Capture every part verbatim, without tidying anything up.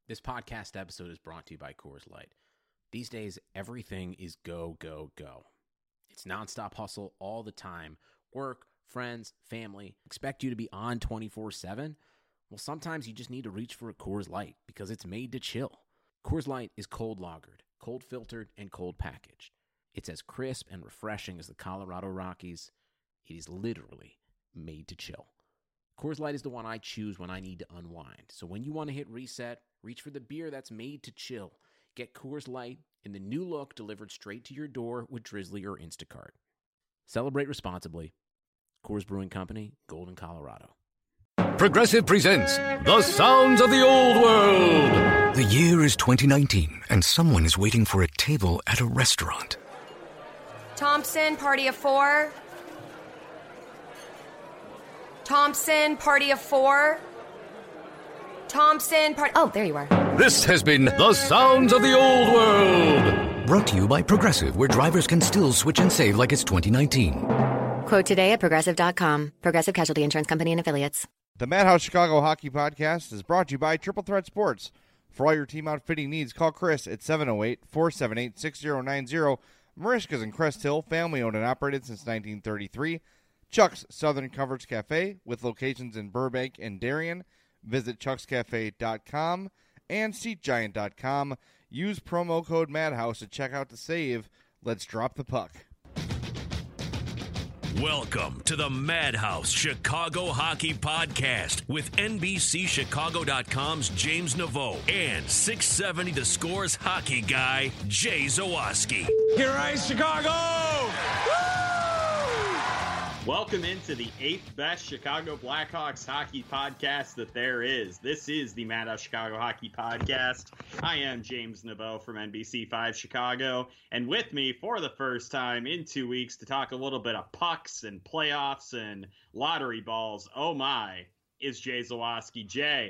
This podcast episode is brought to you by Coors Light. These days, everything is go, go, go. It's nonstop hustle all the time. Work, friends, family, expect you to be on twenty-four seven. Well, sometimes you just need to reach for a Coors Light because it's made to chill. Coors Light is cold lagered, cold filtered, and cold packaged. It's as crisp and refreshing as the Colorado Rockies. It is literally made to chill. Coors Light is the one I choose when I need to unwind. So when you want to hit reset, reach for the beer that's made to chill. Get Coors Light in the new look delivered straight to your door with Drizzly or Instacart. Celebrate responsibly. Coors Brewing Company, Golden, Colorado. Progressive presents The Sounds of the Old World. The year is twenty nineteen, and someone is waiting for a table at a restaurant. Thompson, party of four. Thompson, party of four. Thompson, party... Oh, there you are. This has been The Sounds of the Old World. Brought to you by Progressive, where drivers can still switch and save like it's twenty nineteen. Quote today at Progressive dot com. Progressive Casualty Insurance Company and Affiliates. The Madhouse Chicago Hockey Podcast is brought to you by Triple Threat Sports. For all your team outfitting needs, call Chris at seven oh eight, four seven eight, six oh nine oh. Marishka's in Crest Hill, family owned and operated since nineteen thirty-three. Chuck's Southern Coverage Cafe with locations in Burbank and Darien. Visit chucks cafe dot com and seat giant dot com. Use promo code Madhouse to check out to save. Let's drop the puck. Welcome to the Madhouse Chicago Hockey Podcast with N B C Chicago dot com's James Naveau and six seventy The Score's hockey guy, Jay Zawaski. Here rise Chicago! Woo! Welcome into the eighth best Chicago Blackhawks hockey podcast that there is. This is the Madhouse Chicago Hockey Podcast. I am James Naveau from N B C five Chicago, and with me for the first time in two weeks to talk a little bit of pucks and playoffs and lottery balls, oh my, is Jay Zawaski. Jay,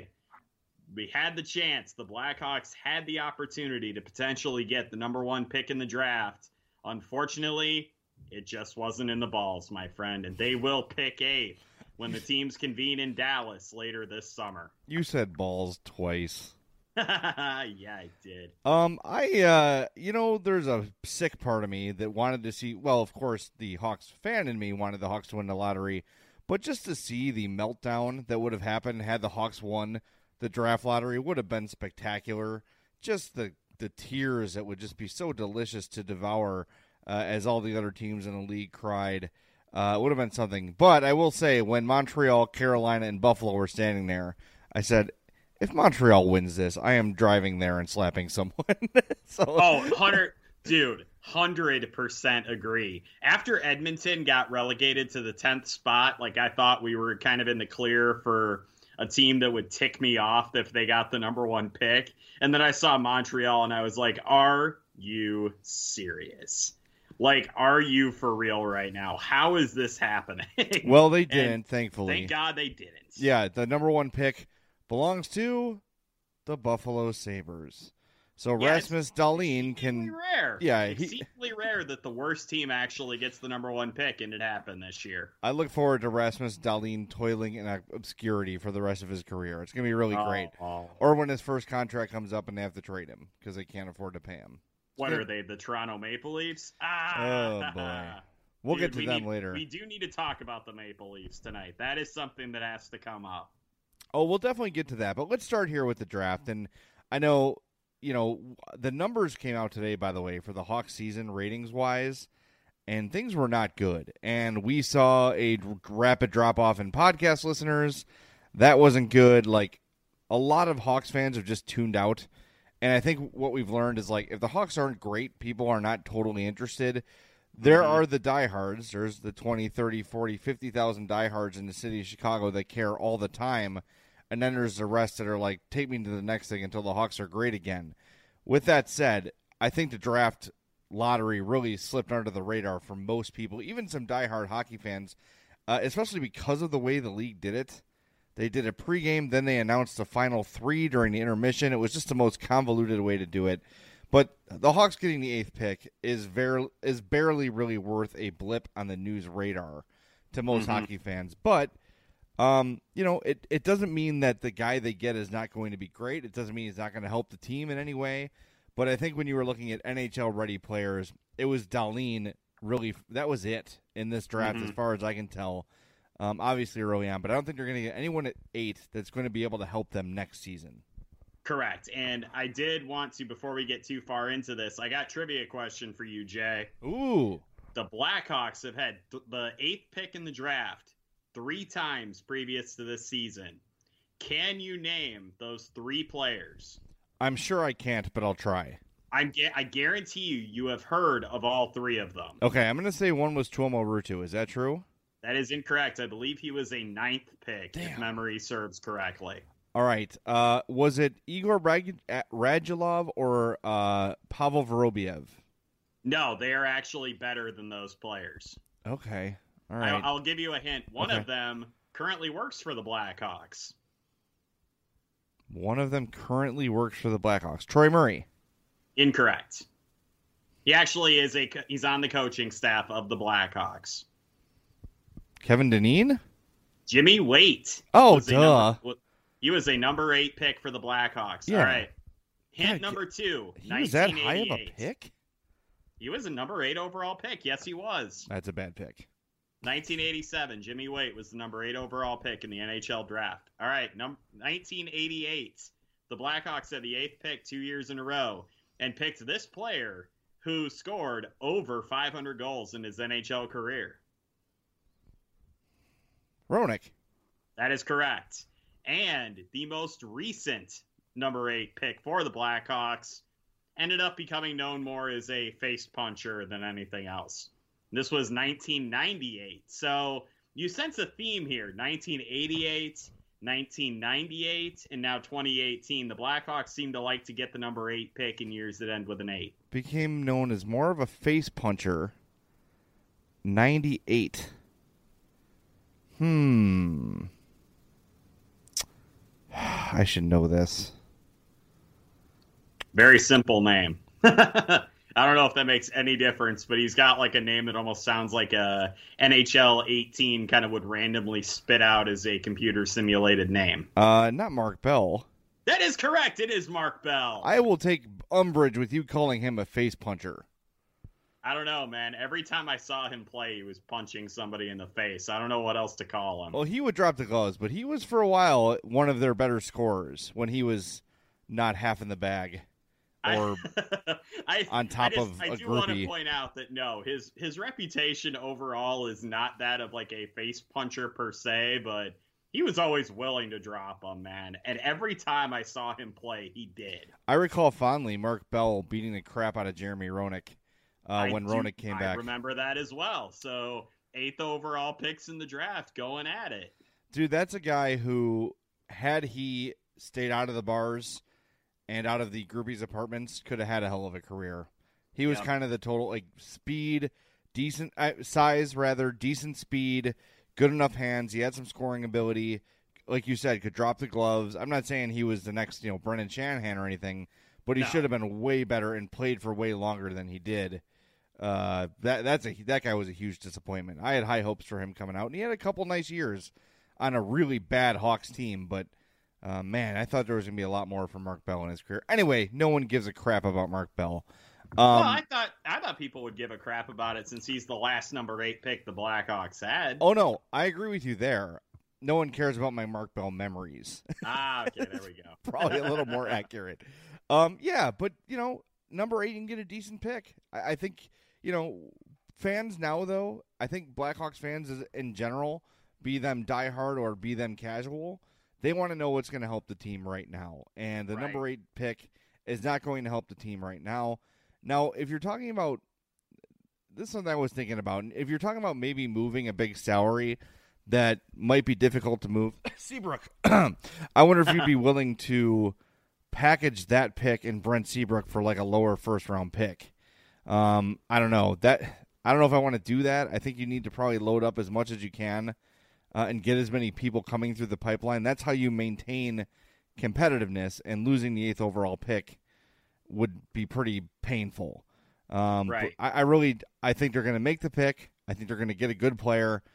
we had the chance. The Blackhawks had the opportunity to potentially get the number one pick in the draft. Unfortunately, it just wasn't in the balls, my friend, and they will pick eighth when the teams convene in Dallas later this summer. You said balls twice. Yeah, I did. Um, I, uh, you know, there's a sick part of me that wanted to see, well, of course, the Hawks fan in me wanted the Hawks to win the lottery, but just to see the meltdown that would have happened had the Hawks won the draft lottery would have been spectacular. Just the, the tears that would just be so delicious to devour. Uh, as all the other teams in the league cried, uh, it would have been something. But I will say, when Montreal, Carolina, and Buffalo were standing there, I said, if Montreal wins this, I am driving there and slapping someone. so, oh, one hundred, dude, one hundred percent agree. After Edmonton got relegated to the tenth spot, like I thought we were kind of in the clear for a team that would tick me off if they got the number one pick. And then I saw Montreal, and I was like, are you serious? Like, are you for real right now? How is this happening? Well, they didn't, and thankfully. Thank God they didn't. Yeah, the number one pick belongs to the Buffalo Sabres. So yeah, Rasmus Dahlin can... rare. Yeah, it's he... exceedingly rare that the worst team actually gets the number one pick, and it happened this year. I look forward to Rasmus Dahlin toiling in obscurity for the rest of his career. It's going to be really oh, great. Oh. Or when his first contract comes up and they have to trade him because they can't afford to pay him. What are they, the Toronto Maple Leafs? Ah, oh, boy. We'll Dude, get to we them need, later. We do need to talk about the Maple Leafs tonight. That is something that has to come up. Oh, we'll definitely get to that. But let's start here with the draft. And I know, you know, the numbers came out today, by the way, for the Hawks season ratings-wise, and things were not good. And we saw a rapid drop-off in podcast listeners. That wasn't good. Like, a lot of Hawks fans have just tuned out. And I think what we've learned is, like, if the Hawks aren't great, people are not totally interested. There mm-hmm. are the diehards. There's the twenty, thirty, forty, fifty thousand diehards in the city of Chicago that care all the time. And then there's the rest that are like, take me to the next thing until the Hawks are great again. With that said, I think the draft lottery really slipped under the radar for most people, even some diehard hockey fans, uh, especially because of the way the league did it. They did a pregame, then they announced the final three during the intermission. It was just the most convoluted way to do it. But the Hawks getting the eighth pick is very is barely really worth a blip on the news radar to most mm-hmm. hockey fans. But Um, you know, it, it doesn't mean that the guy they get is not going to be great. It doesn't mean he's not going to help the team in any way. But I think when you were looking at N H L-ready players, it was Dahlin really – that was it in this draft mm-hmm. as far as I can tell. Um, obviously early on, but I don't think they're going to get anyone at eight that's going to be able to help them next season. Correct. And I did want to, before we get too far into this, I got a trivia question for you, Jay. Ooh. The Blackhawks have had th- the eighth pick in the draft three times previous to this season. Can you name those three players? I'm sure I can't, but I'll try. I'm, I guarantee you, you have heard of all three of them. Okay, I'm going to say one was Tuomo Ruutu. Is that true? That is incorrect. I believe he was a ninth pick, Damn. if memory serves correctly. All right. Uh, was it Igor Rag- Radulov or uh, Pavel Vorobiev? No, they are actually better than those players. Okay. All right. I'll, I'll give you a hint. One okay. of them currently works for the Blackhawks. One of them currently works for the Blackhawks. Troy Murray. Incorrect. He actually is a he's on the coaching staff of the Blackhawks. Kevin Dineen? Jimmy Waite. Oh, duh. Number, he was a number eight pick for the Blackhawks. Yeah. All right. Hint God, number two. He was that high of a pick? He was a number eight overall pick. Yes, he was. That's a bad pick. nineteen eighty-seven. Jimmy Waite was the number eight overall pick in the N H L draft. All right. Num- nineteen eighty-eight. The Blackhawks had the eighth pick two years in a row and picked this player who scored over five hundred goals in his N H L career. Roenick. That is correct. And the most recent number eight pick for the Blackhawks ended up becoming known more as a face puncher than anything else. This was nineteen ninety-eight. So you sense a theme here. nineteen eighty-eight, nineteen ninety-eight, and now twenty eighteen. The Blackhawks seem to like to get the number eight pick in years that end with an eight. Became known as more of a face puncher. ninety-eight. Hmm. I should know this. Very simple name. I don't know if that makes any difference, but he's got like a name that almost sounds like a N H L eighteen kind of would randomly spit out as a computer simulated name. Uh, not Mark Bell. That is correct. It is Mark Bell. I will take umbrage with you calling him a face puncher. I don't know, man. Every time I saw him play, he was punching somebody in the face. I don't know what else to call him. Well, he would drop the gloves, but he was for a while one of their better scorers when he was not half in the bag or I, on top I just, of I a do want to groupie. point out that no, his his reputation overall is not that of like a face puncher per se, but he was always willing to drop him, man. And every time I saw him play, he did. I recall fondly Mark Bell beating the crap out of Jeremy Roenick. Uh, when do, Roenick came I back. I remember that as well. So eighth overall picks in the draft going at it. Dude, that's a guy who, had he stayed out of the bars and out of the groupies' apartments, could have had a hell of a career. He was Yep. kind of the total, like, speed, decent uh, size, rather, decent speed, good enough hands. He had some scoring ability. Like you said, could drop the gloves. I'm not saying he was the next, you know, Brendan Shanahan or anything, but he No. should have been way better and played for way longer than he did. Uh, that that's a that guy was a huge disappointment. I had high hopes for him coming out, and he had a couple nice years on a really bad Hawks team. But uh, man, I thought there was gonna be a lot more for Mark Bell in his career. Anyway, no one gives a crap about Mark Bell. Um, well, I thought I thought people would give a crap about it since he's the last number eight pick the Blackhawks had. oh no, I agree with you there. No one cares about my Mark Bell memories. Ah, okay, there we go. Probably a little more accurate. Um, yeah, but you know, number eight, you can get a decent pick. I, I think. You know, fans now, though, I think Blackhawks fans is, in general, be them diehard or be them casual, they want to know what's going to help the team right now. And the Right. number eight pick is not going to help the team right now. Now, if you're talking about, this is something I was thinking about, if you're talking about maybe moving a big salary that might be difficult to move, Seabrook, I wonder if you'd be willing to package that pick in Brent Seabrook for like a lower first-round pick. Um, I don't know that. I don't know if I want to do that. I think you need to probably load up as much as you can uh, and get as many people coming through the pipeline. That's how you maintain competitiveness. And losing the eighth overall pick would be pretty painful. Um, Right. I, I really, I think they're going to make the pick. I think they're going to get a good player.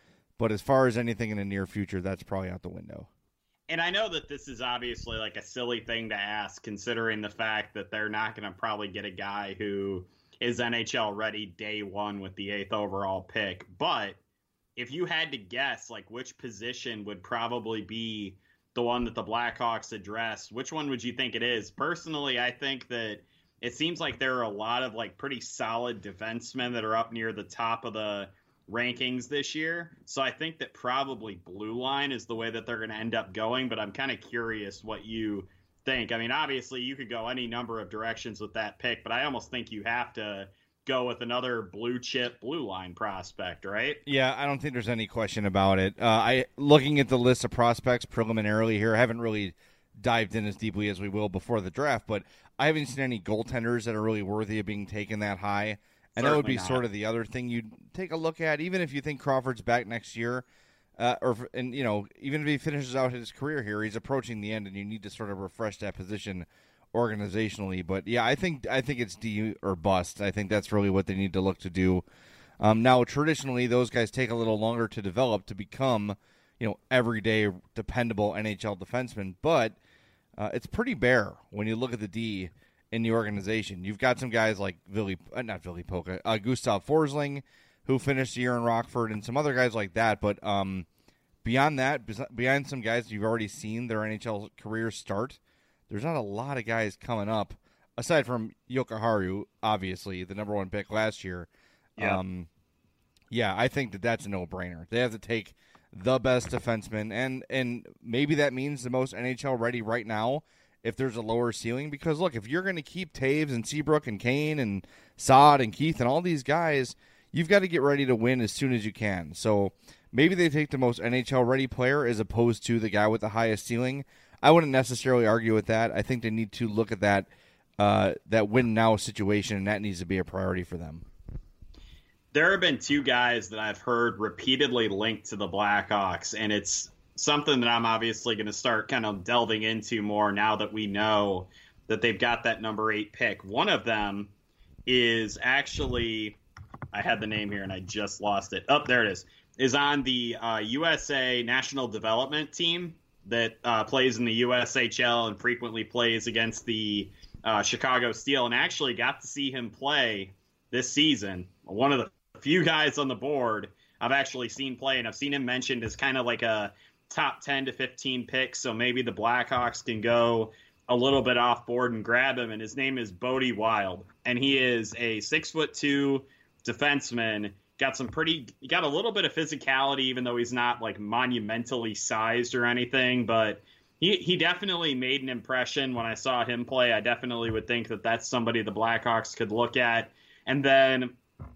But as far as anything in the near future, that's probably out the window. And I know that this is obviously like a silly thing to ask, considering the fact that they're not going to probably get a guy who is N H L ready day one with the eighth overall pick. But if you had to guess, like, which position would probably be the one that the Blackhawks address, which one would you think it is? Personally, I think that it seems like there are a lot of like pretty solid defensemen that are up near the top of the rankings this year. So I think that probably blue line is the way that they're going to end up going, but I'm kind of curious what you think. I mean, obviously you could go any number of directions with that pick, but I almost think you have to go with another blue chip blue line prospect, right? Yeah, I don't think there's any question about it. Uh, I looking at the list of prospects preliminarily here, I haven't really dived in as deeply as we will before the draft, but I haven't seen any goaltenders that are really worthy of being taken that high. And Certainly that would be not. Sort of the other thing you'd take a look at, even if you think Crawford's back next year, uh, or and you know, even if he finishes out his career here, he's approaching the end, and you need to sort of refresh that position organizationally. But yeah, I think I think it's D or bust. I think that's really what they need to look to do. Um, now, traditionally, those guys take a little longer to develop to become, you know, everyday dependable N H L defensemen. But uh, it's pretty bare when you look at the D in the organization. You've got some guys like Billy, uh, not Billy Polka, uh, Gustav Forsling, who finished the year in Rockford, and some other guys like that. But um, beyond that, beyond some guys you've already seen their N H L careers start, there's not a lot of guys coming up, aside from Jokiharju, obviously, the number one pick last year. Yeah, um, yeah I think that that's a no-brainer. They have to take the best defenseman, and, and maybe that means the most N H L ready right now, if there's a lower ceiling. Because, look, if you're going to keep Taves and Seabrook and Kane and Saad and Keith and all these guys, you've got to get ready to win as soon as you can. So maybe they take the most N H L-ready player as opposed to the guy with the highest ceiling. I wouldn't necessarily argue with that. I think they need to look at that uh, that win-now situation, and that needs to be a priority for them. There have been two guys that I've heard repeatedly linked to the Blackhawks, and it's something that I'm obviously going to start kind of delving into more now that we know that they've got that number eight pick. One of them is actually, I had the name here and I just lost it. Oh, there it is. Is on the uh, U S A National Development Team that uh, plays in the U S H L and frequently plays against the uh, Chicago Steel, and actually got to see him play this season. One of the few guys on the board I've actually seen play, and I've seen him mentioned as kind of like a top ten to fifteen picks, so maybe the Blackhawks can go a little bit off board and grab him. And his name is Bodie Wild, and he is a six foot two defenseman. Got some pretty, he got a little bit of physicality, even though he's not like monumentally sized or anything. But he he definitely made an impression when I saw him play. I definitely would think that that's somebody the Blackhawks could look at. And then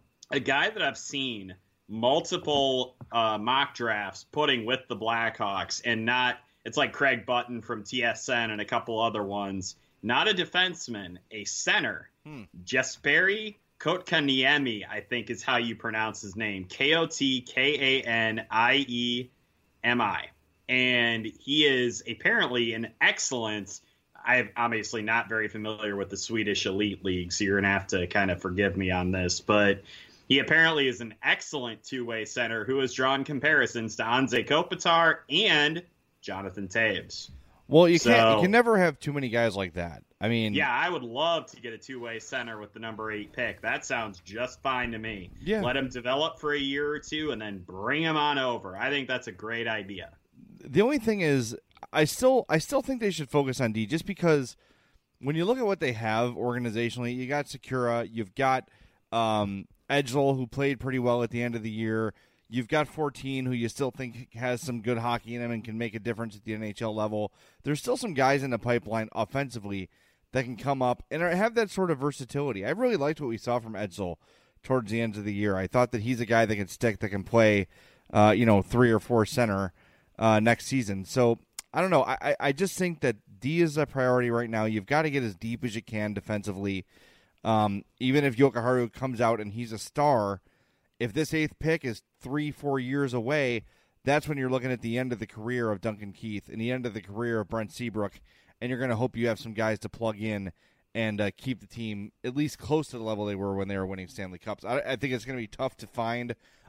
a guy that I've seen multiple uh, mock drafts putting with the Blackhawks, and not, it's like Craig Button from T S N and a couple other ones, not a defenseman, a center. Hmm. Jesperi Kotkaniemi, I think is how you pronounce his name. K O T K A N I E M I. And he is apparently an excellent, I'm obviously not very familiar with the Swedish Elite League, so you're going to have to kind of forgive me on this, but he apparently is an excellent two-way center who has drawn comparisons to Anze Kopitar and Jonathan Taves. Well, you so, can't. You can never have too many guys like that. I mean, yeah, I would love to get a two-way center with the number eight pick. That sounds just fine to me. Yeah. Let him develop for a year or two and then bring him on over. I think that's a great idea. The only thing is, I still, I still think they should focus on D, just because when you look at what they have organizationally, you got Sakura, you've got um, Edgel, who played pretty well at the end of the year. You've got fourteen, who you still think has some good hockey in him and can make a difference at the N H L level. There's still some guys in the pipeline offensively that can come up and have that sort of versatility. I really liked what we saw from Edgel towards the end of the year. I thought that he's a guy that can stick, that can play, uh, you know, three or four center uh, next season. So I don't know. I, I just think that D is a priority right now. You've got to get as deep as you can defensively. Um, even if Jokiharju comes out and he's a star, if this eighth pick is three, four years away, that's when you're looking at the end of the career of Duncan Keith and the end of the career of Brent Seabrook, and you're going to hope you have some guys to plug in and uh, keep the team at least close to the level they were when they were winning Stanley Cups. I, I think it's going to be tough to find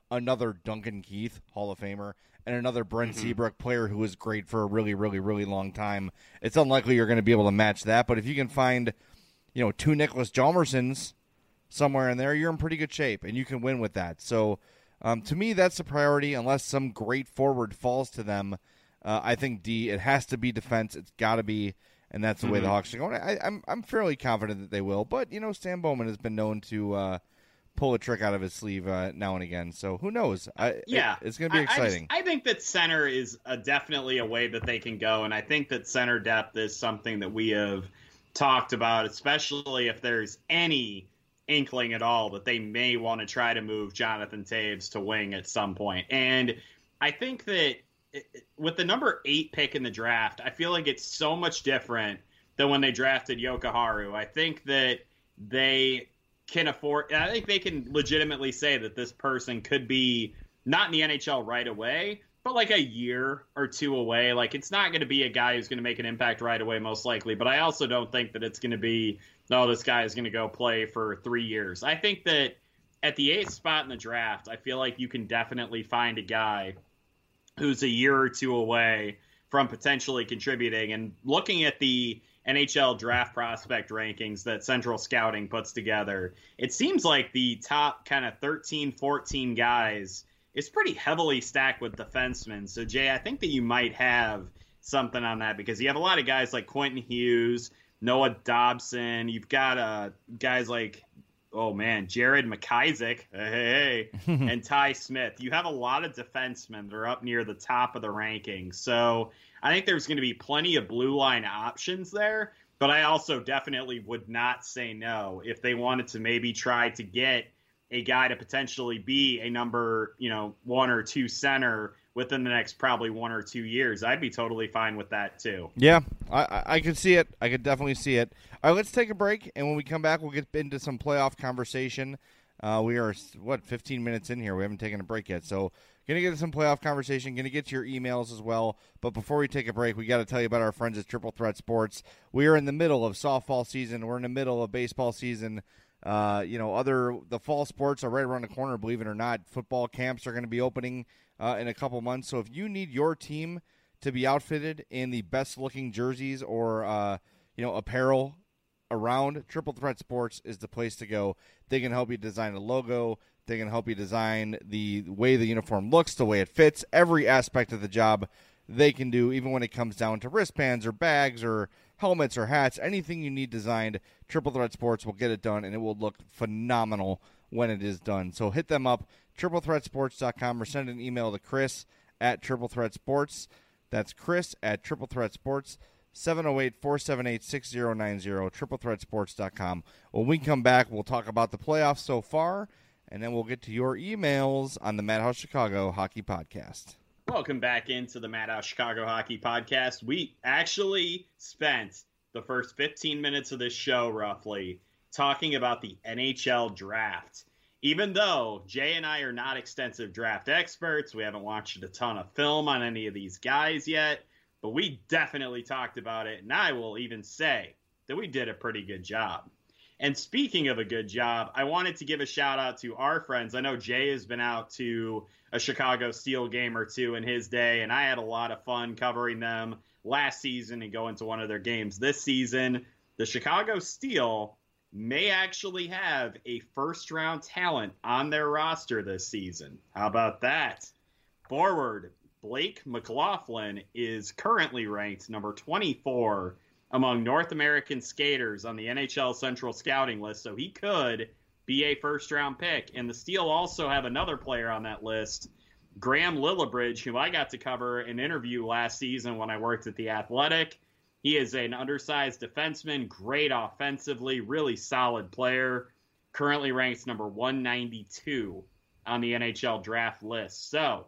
another Duncan Keith, Hall of Famer, and another Brent Mm-hmm. Seabrook, player who was great for a really, really, really long time. It's unlikely you're going to be able to match that, but if you can find, you know, two Nicholas Hjalmarsons somewhere in there, you're in pretty good shape, and you can win with that. So, um, to me, that's the priority, unless some great forward falls to them. Uh, I think D, it has to be defense. It's got to be, and that's the mm-hmm. way the Hawks are going. I, I'm I'm fairly confident that they will, but, you know, Stan Bowman has been known to uh, pull a trick out of his sleeve uh, now and again. So who knows? I, yeah, it, it's going to be exciting. I, I, just, I think that center is a, definitely a way that they can go, and I think that center depth is something that we have talked about, especially if there's any inkling at all that they may want to try to move Jonathan Taves to wing at some point. And I think that with the number eight pick in the draft, I feel like it's so much different than when they drafted Yokoharu. I think that they can afford, I think they can legitimately say that this person could be not in the N H L right away, but like a year or two away. Like, it's not going to be a guy who's going to make an impact right away, most likely. But I also don't think that it's going to be, no, this guy is going to go play for three years. I think that at the eighth spot in the draft, I feel like you can definitely find a guy who's a year or two away from potentially contributing. And looking at the N H L draft prospect rankings that Central Scouting puts together, it seems like the top kind of thirteen, fourteen guys is pretty heavily stacked with defensemen. So, Jay, I think that you might have something on that, because you have a lot of guys like Quentin Hughes, Noah Dobson. You've got uh, guys like, oh, man, Jared McIsaac, hey, hey, and Ty Smith. You have a lot of defensemen that are up near the top of the rankings. So I think there's going to be plenty of blue line options there, but I also definitely would not say no if they wanted to maybe try to get a guy to potentially be a number, you know, one or two center within the next probably one or two years. I'd be totally fine with that too. Yeah, I, I could see it. I could definitely see it. All right, let's take a break, and when we come back, we'll get into some playoff conversation. Uh, we are, what, fifteen minutes in here. We haven't taken a break yet, so going to get to some playoff conversation, going to get to your emails as well. But before we take a break, we got to tell you about our friends at Triple Threat Sports. We are in the middle of softball season. We're in the middle of baseball season. Uh, you know, other the fall sports are right around the corner, believe it or not. Football camps are going to be opening uh, in a couple months. So if you need your team to be outfitted in the best-looking jerseys or, uh, you know, apparel around, Triple Threat Sports is the place to go. They can help you design a logo. They can help you design the way the uniform looks, the way it fits, every aspect of the job they can do, even when it comes down to wristbands or bags or helmets or hats, anything you need designed, Triple Threat Sports will get it done, and it will look phenomenal when it is done. So hit them up, triple threat sports dot com, or send an email to Chris at Triple Threat Sports. That's Chris at Triple Threat Sports, seven oh eight, four seven eight, six oh nine oh, triple threat sports dot com. When we come back, we'll talk about the playoffs so far, and then we'll get to your emails on the Madhouse Chicago Hockey Podcast. Welcome back into the Madhouse Chicago Hockey Podcast. We actually spent the first fifteen minutes of this show, roughly, talking about the N H L draft. Even though Jay and I are not extensive draft experts, we haven't watched a ton of film on any of these guys yet, but we definitely talked about it, and I will even say that we did a pretty good job. And speaking of a good job, I wanted to give a shout out to our friends. I know Jay has been out to a Chicago Steel game or two in his day, and I had a lot of fun covering them last season and going to one of their games this season. The Chicago Steel may actually have a first-round talent on their roster this season. How about that? Forward Blake McLaughlin is currently ranked number twenty-four among North American skaters on the N H L Central Scouting list, so he could be a first-round pick. And the Steel also have another player on that list, Graham Lillibridge, who I got to cover an interview last season when I worked at The Athletic. He is an undersized defenseman, great offensively, really solid player, currently ranks number one ninety-two on the N H L draft list. So,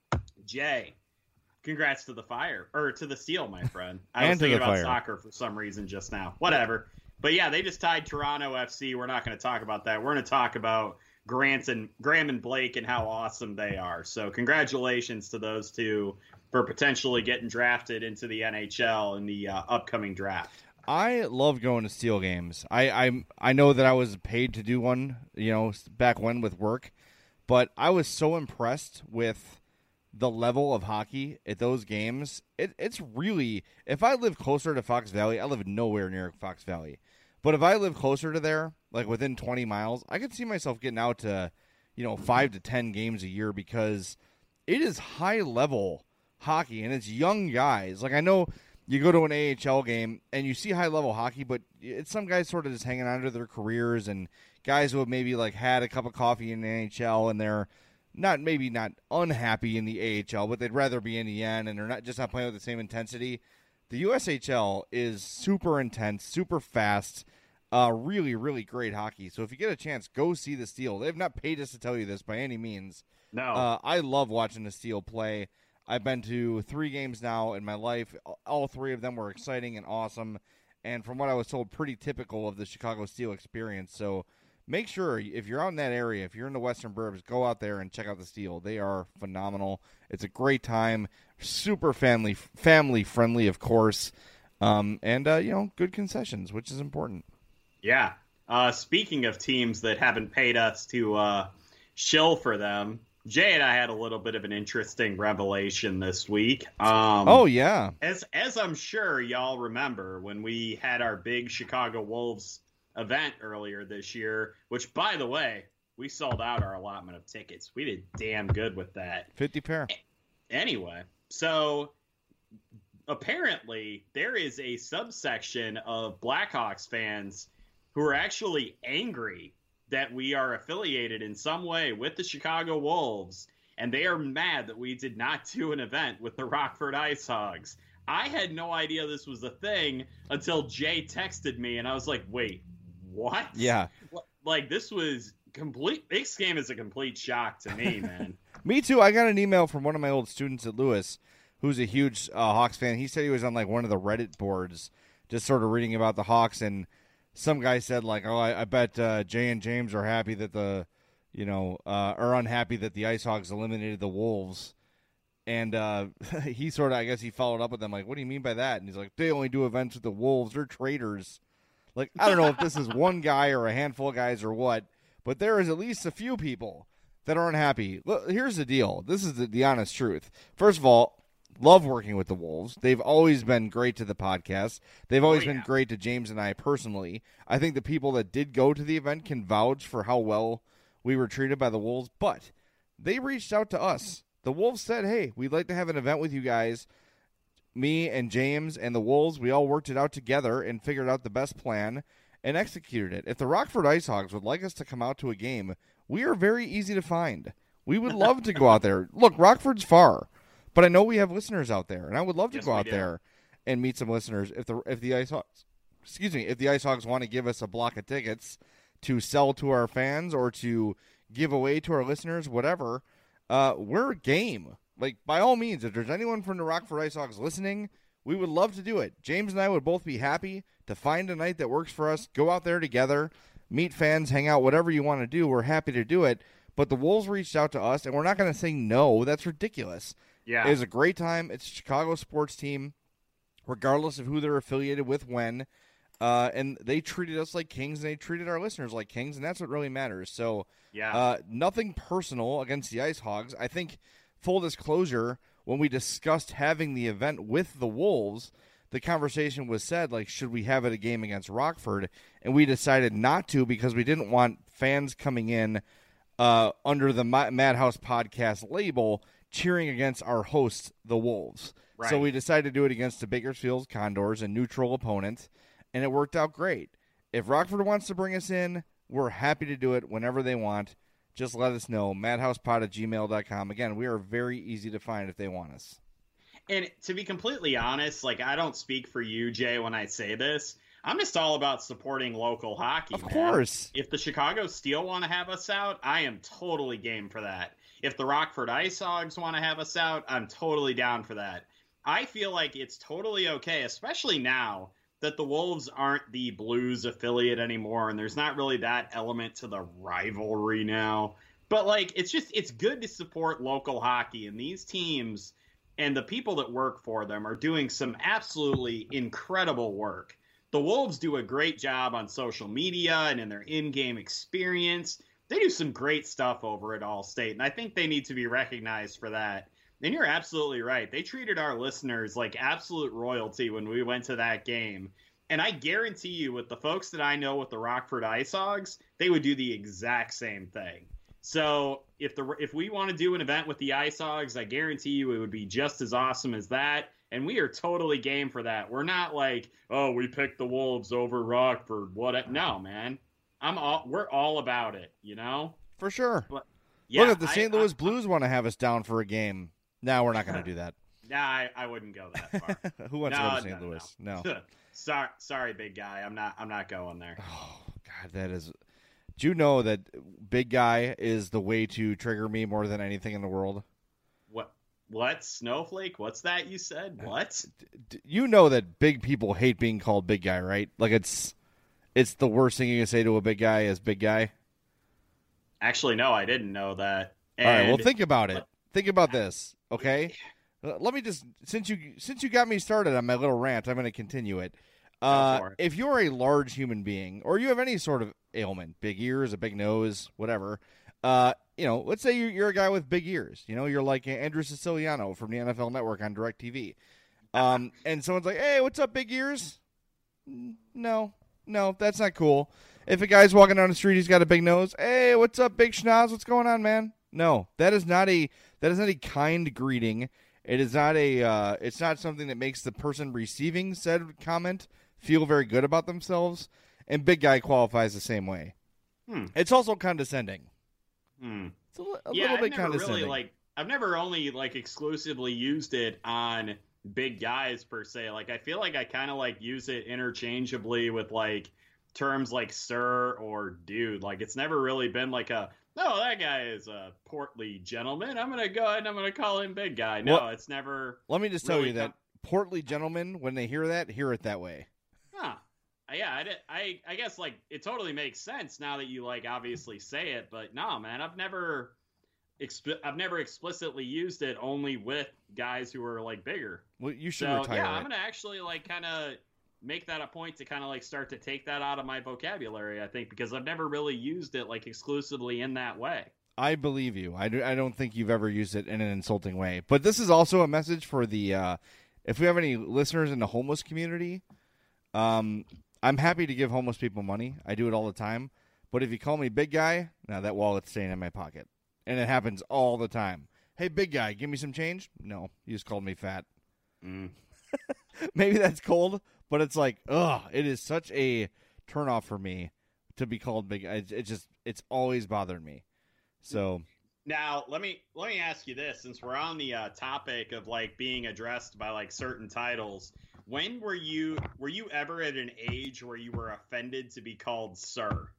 Jay, congrats to the Fire, or to the Steel, my friend. I was thinking about Fire. Soccer for some reason just now. Whatever. But yeah, they just tied Toronto F C. We're not going to talk about that. We're going to talk about Grant and Graham and Blake and how awesome they are. So congratulations to those two for potentially getting drafted into the N H L in the uh, upcoming draft. I love going to Steel games. I, I I know that I was paid to do one, you know, back when with work. but I was so impressed with the level of hockey at those games. It, it's really, if I live closer to Fox Valley, I live nowhere near Fox Valley, but if I live closer to there, like within twenty miles, I could see myself getting out to, you know, five to ten games a year because it is high level hockey and it's young guys. Like I know you go to an A H L game and you see high level hockey, but it's some guys sort of just hanging on to their careers and guys who have maybe like had a cup of coffee in the N H L and they're not maybe not unhappy in the A H L, but they'd rather be in the N and they're not just not playing with the same intensity. The U S H L is super intense, super fast, uh, really, really great hockey. So if you get a chance, go see the Steel. They've not paid us to tell you this by any means. No. Uh, I love watching the Steel play. I've been to three games now in my life. All three of them were exciting and awesome. And from what I was told, pretty typical of the Chicago Steel experience. So make sure, if you're out in that area, if you're in the Western Burbs, go out there and check out the Steel. They are phenomenal. It's a great time. Super family family friendly, of course. Um, and, uh, you know, good concessions, which is important. Yeah. Uh, speaking of teams that haven't paid us to uh, shill for them, Jay and I had a little bit of an interesting revelation this week. Um, oh, yeah. As as I'm sure y'all remember, when we had our big Chicago Wolves event earlier this year, which, by the way, we sold out our allotment of tickets. We did damn good with that. fifty pair. Anyway, so apparently there is a subsection of Blackhawks fans who are actually angry that we are affiliated in some way with the Chicago Wolves, and they are mad that we did not do an event with the Rockford Ice Hogs. I had no idea this was a thing until Jay texted me, and I was like, wait, what? Yeah. Like, this was complete. This game is a complete shock to me, man. Me too. I got an email from one of my old students at Lewis who's a huge uh, Hawks fan. He said he was on like one of the Reddit boards just sort of reading about the Hawks, and some guy said, like, oh, I, I bet uh, Jay and James are happy that the, you know, uh, are unhappy that the Ice Hogs eliminated the Wolves. And uh, he sort of, I guess he followed up with them, like, what do you mean by that? And he's like, they only do events with the Wolves. They're traitors. Like, I don't know if this is one guy or a handful of guys or what, but there is at least a few people that are unhappy. Look, here's the deal. This is the, the honest truth. First of all, love working with the Wolves. They've always been great to the podcast. They've always oh, yeah. been great to James and I personally. I think the people that did go to the event can vouch for how well we were treated by the Wolves, but they reached out to us. The Wolves said, hey, we'd like to have an event with you guys. Me and James and the Wolves, we all worked it out together and figured out the best plan and executed it. If the Rockford Ice Hogs would like us to come out to a game, we are very easy to find. We would love to go out there. Look, Rockford's far. But I know we have listeners out there, and I would love to yes, go out do. there and meet some listeners. If the if the Ice Hogs, excuse me, if the Ice Hogs want to give us a block of tickets to sell to our fans or to give away to our listeners, whatever, uh, we're game. Like, by all means, if there's anyone from the Rockford Ice Hogs listening, we would love to do it. James and I would both be happy to find a night that works for us, go out there together, meet fans, hang out, whatever you want to do. We're happy to do it. But the Wolves reached out to us, and we're not going to say no. That's ridiculous. Yeah. It was a great time. It's a Chicago sports team, regardless of who they're affiliated with when. Uh, and they treated us like kings, and they treated our listeners like kings, and that's what really matters. So yeah. uh, nothing personal against the Ice Hogs. I think, full disclosure, when we discussed having the event with the Wolves, the conversation was said, like, should we have it a game against Rockford? And we decided not to because we didn't want fans coming in uh, under the Madhouse Podcast label cheering against our hosts, the Wolves. Right. So we decided to do it against the Bakersfield Condors, a neutral opponent, and it worked out great. If Rockford wants to bring us in, we're happy to do it whenever they want. Just let us know, madhousepod at gmail dot com. Again, we are very easy to find if they want us. And to be completely honest, like, I don't speak for you, Jay, when I say this. I'm just all about supporting local hockey. Of man. course. If the Chicago Steel want to have us out, I am totally game for that. If the Rockford Ice Hogs want to have us out, I'm totally down for that. I feel like it's totally okay, especially now that the Wolves aren't the Blues affiliate anymore, and there's not really that element to the rivalry now. But, like, it's just, it's good to support local hockey, and these teams and the people that work for them are doing some absolutely incredible work. The Wolves do a great job on social media and in their in-game experience. they do some great stuff over at Allstate, and I think they need to be recognized for that. And you're absolutely right. They treated our listeners like absolute royalty when we went to that game. And I guarantee you, with the folks that I know with the Rockford Ice Hogs, they would do the exact same thing. So if the if we want to do an event with the Ice Hogs, I guarantee you it would be just as awesome as that. And we are totally game for that. We're not like, oh, we picked the Wolves over Rockford. What? No, man. I'm all. We're all about it. You know, for sure. But, yeah, look, if the Saint I, Louis I, Blues want to have us down for a game, no, we're not going to do that. Nah, I, I wouldn't go that far. Who wants no, to go to Saint no, Louis? No. no. sorry, sorry, big guy. I'm not. I'm not going there. Oh God, that is. Do you know that big guy is the way to trigger me more than anything in the world? What? What? Snowflake? What's that you said? What? You know that big people hate being called big guy, right? Like it's it's the worst thing you can say to a big guy is big guy. Actually, no, I didn't know that. And... All right, well, think about it. Think about this, okay? Let me just since you since you got me started on my little rant, I'm going to continue it. Uh, it. If you're a large human being, or you have any sort of ailment, big ears, a big nose, whatever, uh, you know, let's say you're, you're a guy with big ears. You know, you're like Andrew Siciliano from the N F L Network on DirecTV. Um, and someone's like, hey, what's up, big ears? No, no, that's not cool. If a guy's walking down the street, he's got a big nose. Hey, what's up, big schnoz? What's going on, man? No, that is not a that is not a kind greeting. It is not a. Uh, it's not something that makes the person receiving said comment feel very good about themselves. And big guy qualifies the same way. Hmm. It's also condescending. Hmm. It's a, a yeah, little I've bit never condescending. Really, like, I've never only like exclusively used it on big guys per se. Like, I feel like I kind of like use it interchangeably with like terms like sir or dude. Like, it's never really been like a, no, that guy is a portly gentleman. I'm gonna go ahead and I'm gonna call him big guy. No, well, it's never. Let me just really tell you that portly gentlemen, when they hear that, hear it that way. Huh. Yeah, I, did, I I guess like it totally makes sense now that you like obviously say it, but no, man, I've never exp- I've never explicitly used it only with guys who are like bigger. Well, you should so, retire. Yeah, it. I'm gonna actually like kind of make that a point to kind of like start to take that out of my vocabulary. I think because I've never really used it like exclusively in that way. I believe you. I, do, I don't think you've ever used it in an insulting way. But this is also a message for the uh, if we have any listeners in the homeless community. Um. I'm happy to give homeless people money. I do it all the time. But if you call me big guy, now that wallet's staying in my pocket. And it happens all the time. Hey, big guy, give me some change? No, you just called me fat. Mm. Maybe that's cold, but it's like, ugh, it is such a turnoff for me to be called big. It, it just, it's always bothered me. So now let me let me ask you this, since we're on the uh, topic of like being addressed by like certain titles. When were you were you ever at an age where you were offended to be called sir?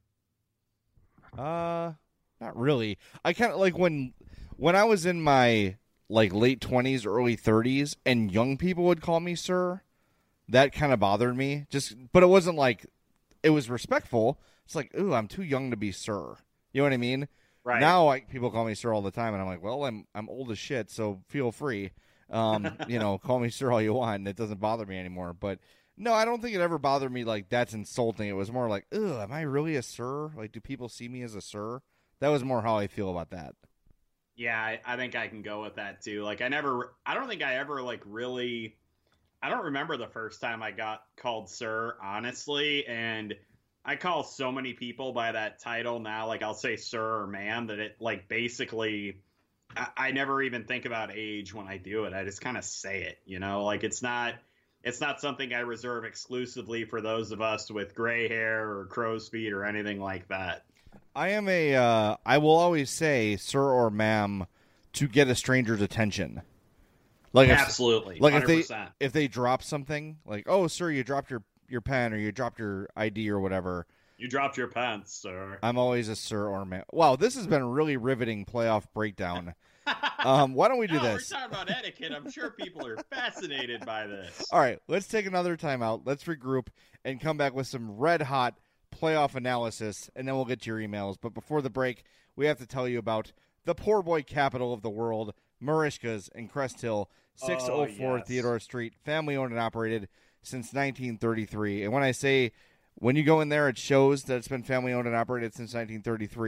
Uh, not really. I kind of like when when I was in my like late twenties, early thirties, and young people would call me sir. That kind of bothered me. Just, but it wasn't like it was respectful. It's like, ooh, I'm too young to be sir. You know what I mean? Right. Now, like people call me sir all the time, and I'm like, well, I'm I'm old as shit, so feel free. Um, you know, call me sir all you want, and it doesn't bother me anymore. But no, I don't think it ever bothered me like that's insulting. It was more like, ugh, am I really a sir? Like, do people see me as a sir? That was more how I feel about that. Yeah, I, I think I can go with that too. Like, I never, I don't think I ever like really, I don't remember the first time I got called sir, honestly. And I call so many people by that title now. Like, I'll say sir or ma'am that it like basically. I never even think about age when I do it. I just kind of say it, you know, like it's not, it's not something I reserve exclusively for those of us with gray hair or crow's feet or anything like that. I am a, uh, I will always say sir or ma'am to get a stranger's attention. Like absolutely. If, like one hundred percent. if they, if they drop something like, oh, sir, you dropped your, your pen or you dropped your I D or whatever. You dropped your pants, sir. I'm always a sir or ma'am. Wow, this has been a really riveting playoff breakdown. um, why don't we do no, this? We're talking about etiquette. I'm sure people are fascinated by this. All right, let's take another timeout. Let's regroup and come back with some red-hot playoff analysis, and then we'll get to your emails. But before the break, we have to tell you about the poor boy capital of the world, Marishka's in Crest Hill, six oh four oh, yes. Theodore Street, family-owned and operated since nineteen thirty-three. And when I say when you go in there, it shows that it's been family-owned and operated since nineteen thirty-three.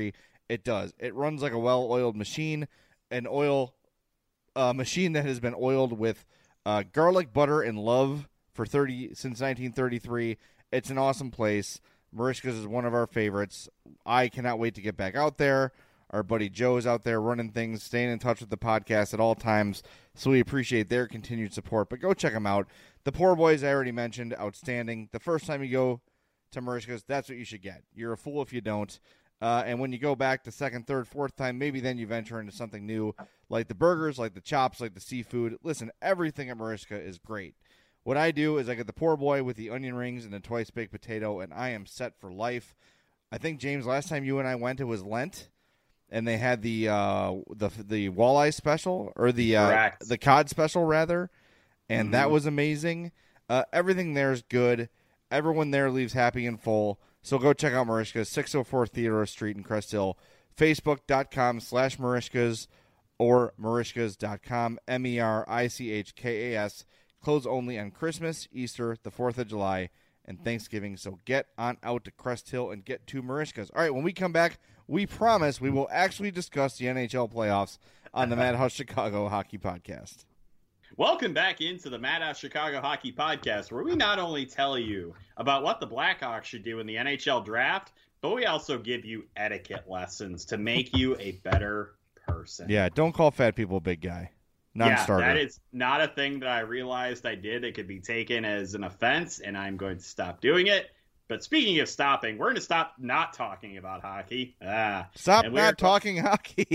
It does. It runs like a well-oiled machine, an oil uh, machine that has been oiled with uh, garlic, butter, and love for thirty since nineteen thirty-three. It's an awesome place. Merichka's is one of our favorites. I cannot wait to get back out there. Our buddy Joe is out there running things, staying in touch with the podcast at all times, so we appreciate their continued support. But go check them out. The Poor Boys, I already mentioned, outstanding. The first time you go to Merichka's, that's what you should get. You're a fool if you don't. Uh, and when you go back the second, third, fourth time, maybe then you venture into something new, like the burgers, like the chops, like the seafood. Listen, everything at Merichka is great. What I do is I get the poor boy with the onion rings and the twice-baked potato, and I am set for life. I think, James, last time you and I went, it was Lent, and they had the uh, the the walleye special, or the uh, the cod special, rather, and mm-hmm. that was amazing. Uh, everything there is good. Everyone there leaves happy and full. So go check out Merichka's, six oh four Theodore Street in Crest Hill, facebook.com slash Merichka's or Merichkas dot com, M E R I C H K A S. Close only on Christmas, Easter, the fourth of July, and Thanksgiving. So get on out to Crest Hill and get to Merichka's. All right, when we come back, we promise we will actually discuss the N H L playoffs on the Madhouse Chicago Hockey Podcast. Welcome back into the Madhouse Chicago Hockey Podcast, where we not only tell you about what the Blackhawks should do in the N H L draft, but we also give you etiquette lessons to make you a better person. Yeah, don't call fat people big guy. Non-starter. Yeah, that is not a thing that I realized I did. It could be taken as an offense, and I'm going to stop doing it. But speaking of stopping, we're going to stop not talking about hockey. Ah, Stop not talking hockey.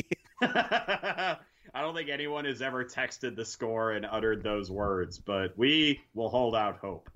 I don't think anyone has ever texted the score and uttered those words, but we will hold out hope.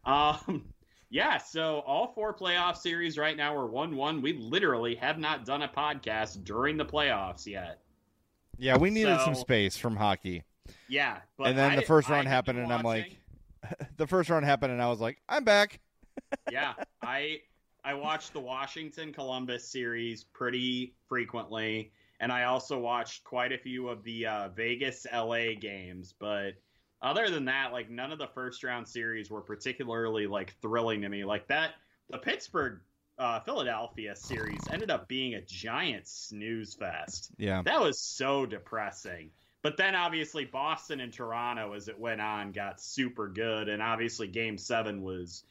Um, yeah, so all four playoff series right now are one one. We literally have not done a podcast during the playoffs yet. Yeah, we needed so, some space from hockey. Yeah, but and then I, the first round I happened, and watching. I'm like, the first round happened, and I was like, I'm back. yeah, I I watched the Washington Columbus series pretty frequently, and I also watched quite a few of the uh, Vegas L A games. But other than that, like none of the first round series were particularly like thrilling to me. Like that, the Pittsburgh. Uh, Philadelphia series ended up being a giant snooze fest. Yeah. That was so depressing. But then obviously Boston and Toronto as it went on got super good. And obviously game seven was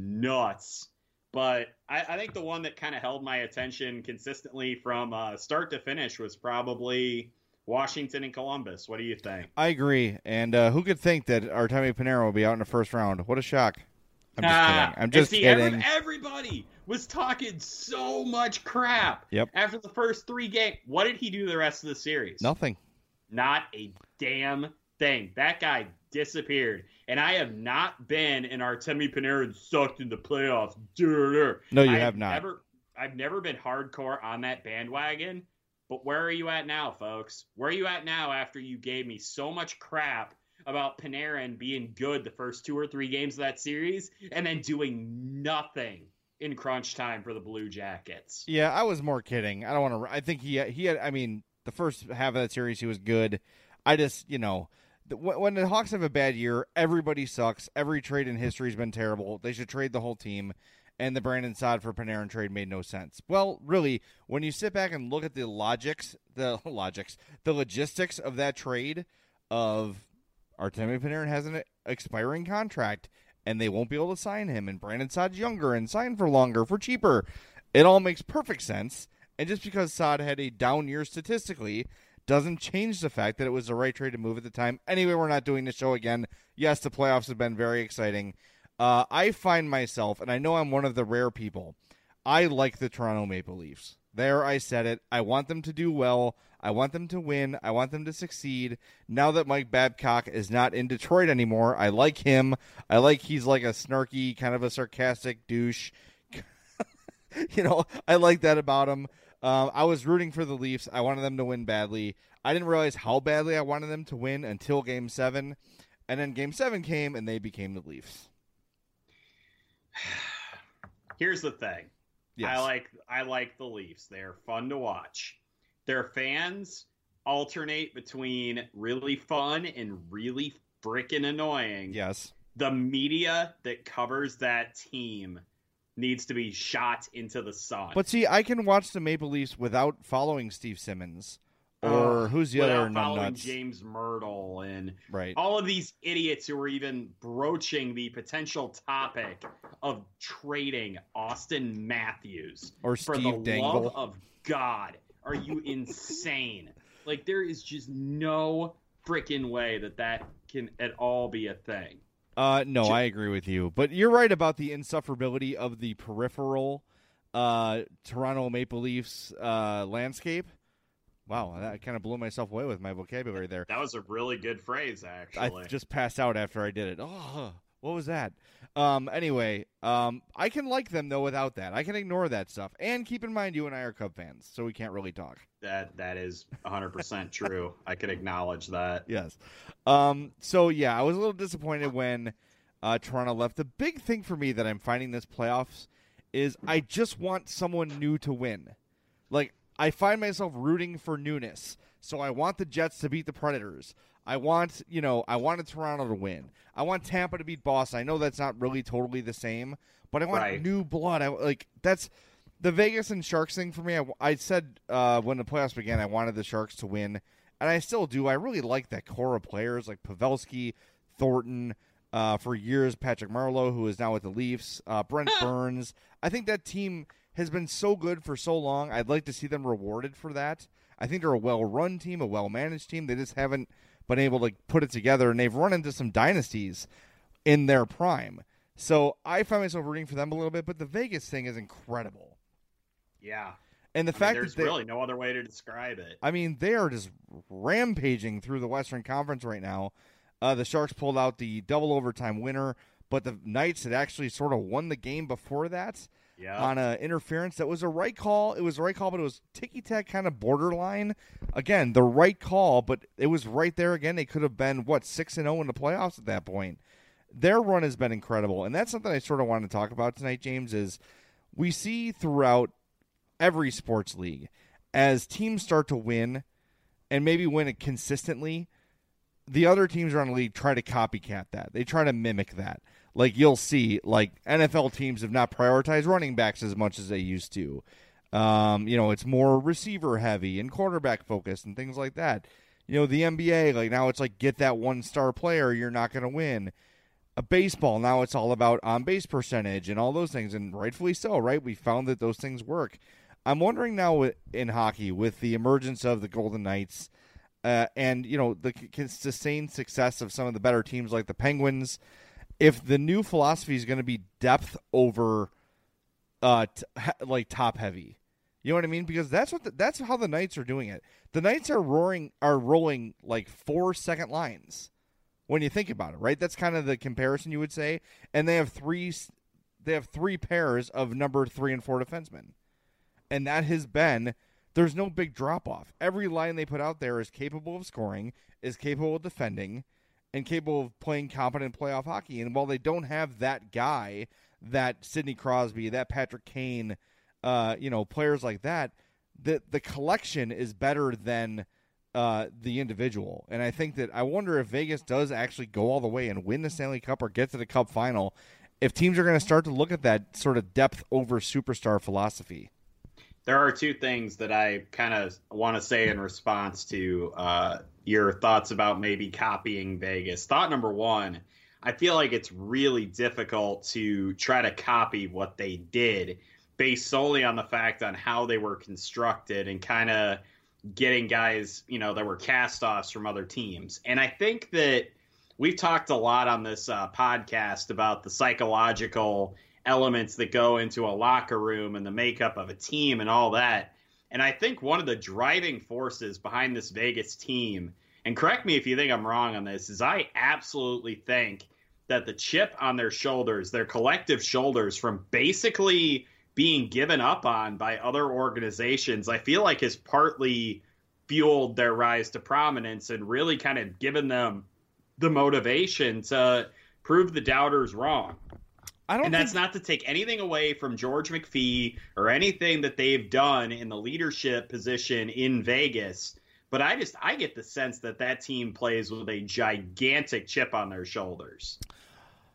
nuts. But I, I think the one that kind of held my attention consistently from uh, start to finish was probably Washington and Columbus. What do you think? I agree. And uh, who could think that Artemi Panarin will be out in the first round? What a shock. I'm just ah, kidding. I'm just see, kidding. Every, everybody was talking so much crap yep. after the first three games. What did he do the rest of the series? Nothing. Not a damn thing. That guy disappeared. And I have not been in Artemi Panarin sucked in the playoffs. No, you I've have not. Never, I've never been hardcore on that bandwagon. But where are you at now, folks? Where are you at now after you gave me so much crap about Panarin being good the first two or three games of that series and then doing nothing in crunch time for the Blue Jackets? Yeah, I was more kidding. I don't want to. I think he he had. I mean, the first half of that series he was good. I just, you know, the, when the Hawks have a bad year, everybody sucks. Every trade in history has been terrible. They should trade the whole team. And the Brandon Saad for Panarin trade made no sense. Well, really, when you sit back and look at the logics, the logics, the logistics of that trade of Artemi Panarin has an expiring contract, and they won't be able to sign him, and Brandon Saad's younger and sign for longer, for cheaper. It all makes perfect sense, and just because Saad had a down year statistically doesn't change the fact that it was the right trade to move at the time. Anyway, we're not doing the show again. Yes, the playoffs have been very exciting. Uh, I find myself, and I know I'm one of the rare people, I like the Toronto Maple Leafs. There, I said it. I want them to do well. I want them to win. I want them to succeed. Now that Mike Babcock is not in Detroit anymore, I like him. I like he's like a snarky, kind of a sarcastic douche. You know, I like that about him. Um, I was rooting for the Leafs. I wanted them to win badly. I didn't realize how badly I wanted them to win until Game seven. And then Game seven came, and they became the Leafs. Here's the thing. Yes. I like I like the Leafs. They're fun to watch. Their fans alternate between really fun and really freaking annoying. Yes. The media that covers that team needs to be shot into the sun. But see, I can watch the Maple Leafs without following Steve Simmons. Or uh, who's the other following numbnuts? James Myrtle and right. all of these idiots who are even broaching the potential topic of trading Auston Matthews or for Steve the Dangle. love of God. Are you insane? Like, there is just no freaking way that that can at all be a thing. Uh, no, I agree with you. But you're right about the insufferability of the peripheral uh, Toronto Maple Leafs uh, landscape. Wow, I kind of blew myself away with my vocabulary there. That was a really good phrase, actually. I just passed out after I did it. Oh, what was that? Um, anyway, um, I can like them, though, without that. I can ignore that stuff. And keep in mind, you and I are Cub fans, so we can't really talk. That That is one hundred percent true. I can acknowledge that. Yes. Um, so, yeah, I was a little disappointed when uh, Toronto left. The big thing for me that I'm finding this playoffs is I just want someone new to win. Like, I find myself rooting for newness. So I want the Jets to beat the Predators. I want, you know, I wanted Toronto to win. I want Tampa to beat Boston. I know that's not really totally the same, but I want right. new blood. I like that's the Vegas and Sharks thing for me. I, I said uh, when the playoffs began, I wanted the Sharks to win, and I still do. I really like that core of players like Pavelski, Thornton, uh, for years Patrick Marleau, who is now with the Leafs, uh, Brent Burns. I think that team has been so good for so long. I'd like to see them rewarded for that. I think they're a well-run team, a well-managed team. They just haven't been able to put it together, and they've run into some dynasties in their prime. So I find myself rooting for them a little bit, but the Vegas thing is incredible. Yeah. And the I fact mean, there's that they, really no other way to describe it. I mean, they are just rampaging through the Western Conference right now. Uh, the Sharks pulled out the double overtime winner, but the Knights had actually sort of won the game before that. Yeah. On a interference. That was a right call. It was a right call, but it was ticky-tack kind of borderline. Again, the right call, but it was right there again. They could have been, what, six and oh in the playoffs at that point. Their run has been incredible, and that's something I sort of want to talk about tonight, James, is we see throughout every sports league, as teams start to win, and maybe win it consistently, the other teams around the league try to copycat that. They try to mimic that. Like you'll see, like N F L teams have not prioritized running backs as much as they used to. Um, you know, it's more receiver heavy and quarterback focused and things like that. You know, the N B A, like now it's like get that one star player, you're not going to win. A baseball, now it's all about on base percentage and all those things, and rightfully so, right? We found that those things work. I'm wondering now in hockey with the emergence of the Golden Knights uh, and you know the c- sustained success of some of the better teams like the Penguins. If the new philosophy is going to be depth over, uh, t- like top heavy, you know what I mean? Because that's what the, that's how the Knights are doing it. The Knights are roaring, are rolling like four second lines when you think about it, right? That's kind of the comparison you would say. And they have three, they have three pairs of number three and four defensemen, and that has been. There's no big drop off. Every line they put out there is capable of scoring, is capable of defending, and capable of playing competent playoff hockey. And while they don't have that guy, that Sidney Crosby, that Patrick Kane, uh, you know, players like that, the the collection is better than uh, the individual. And I think that I wonder if Vegas does actually go all the way and win the Stanley Cup or get to the Cup final, if teams are going to start to look at that sort of depth over superstar philosophy. There are two things that I kind of want to say in response to uh, your thoughts about maybe copying Vegas. Thought number one, I feel like it's really difficult to try to copy what they did based solely on the fact on how they were constructed and kind of getting guys, you know, that were cast-offs from other teams. And I think that we've talked a lot on this uh, podcast about the psychological elements that go into a locker room and the makeup of a team and all that. And I think one of the driving forces behind this Vegas team, and correct me if you think I'm wrong on this, is I absolutely think that the chip on their shoulders, their collective shoulders from basically being given up on by other organizations, I feel like has partly fueled their rise to prominence and really kind of given them the motivation to prove the doubters wrong. I don't and that's think... not to take anything away from George McPhee or anything that they've done in the leadership position in Vegas. But I just I get the sense that that team plays with a gigantic chip on their shoulders.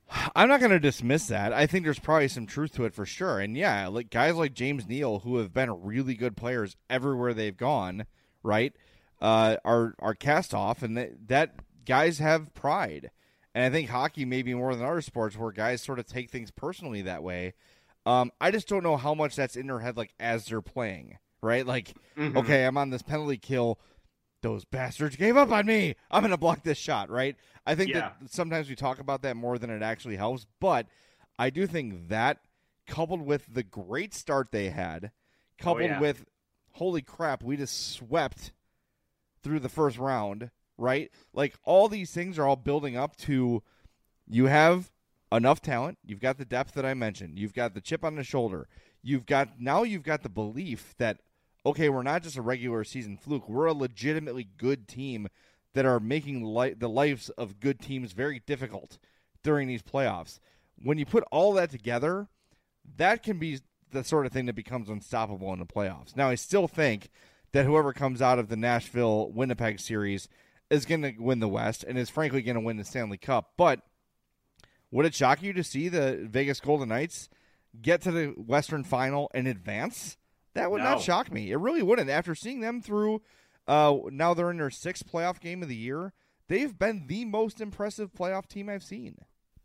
I'm not going to dismiss that. I think there's probably some truth to it for sure. And yeah, like guys like James Neal, who have been really good players everywhere they've gone, right, uh, are are cast off, and that, that guys have pride. And I think hockey, maybe more than other sports, where guys sort of take things personally that way. Um, I just don't know how much that's in their head, like as they're playing, right? Like, mm-hmm. okay, I'm on this penalty kill. Those bastards gave up on me. I'm going to block this shot, right? I think yeah. that sometimes we talk about that more than it actually helps, but I do think that coupled with the great start they had, coupled oh, yeah. with, holy crap, we just swept through the first round, right? Like, all these things are all building up to you have enough talent. You've got the depth that I mentioned. You've got the chip on the shoulder. You've got now you've got the belief that, okay, we're not just a regular season fluke. We're a legitimately good team that are making li- the lives of good teams very difficult during these playoffs. When you put all that together, that can be the sort of thing that becomes unstoppable in the playoffs. Now, I still think that whoever comes out of the Nashville-Winnipeg series is going to win the West and is frankly going to win the Stanley Cup. But would it shock you to see the Vegas Golden Knights get to the Western Final and advance? That would no. not shock me. It really wouldn't. After seeing them through, uh, now they're in their sixth playoff game of the year, they've been the most impressive playoff team I've seen.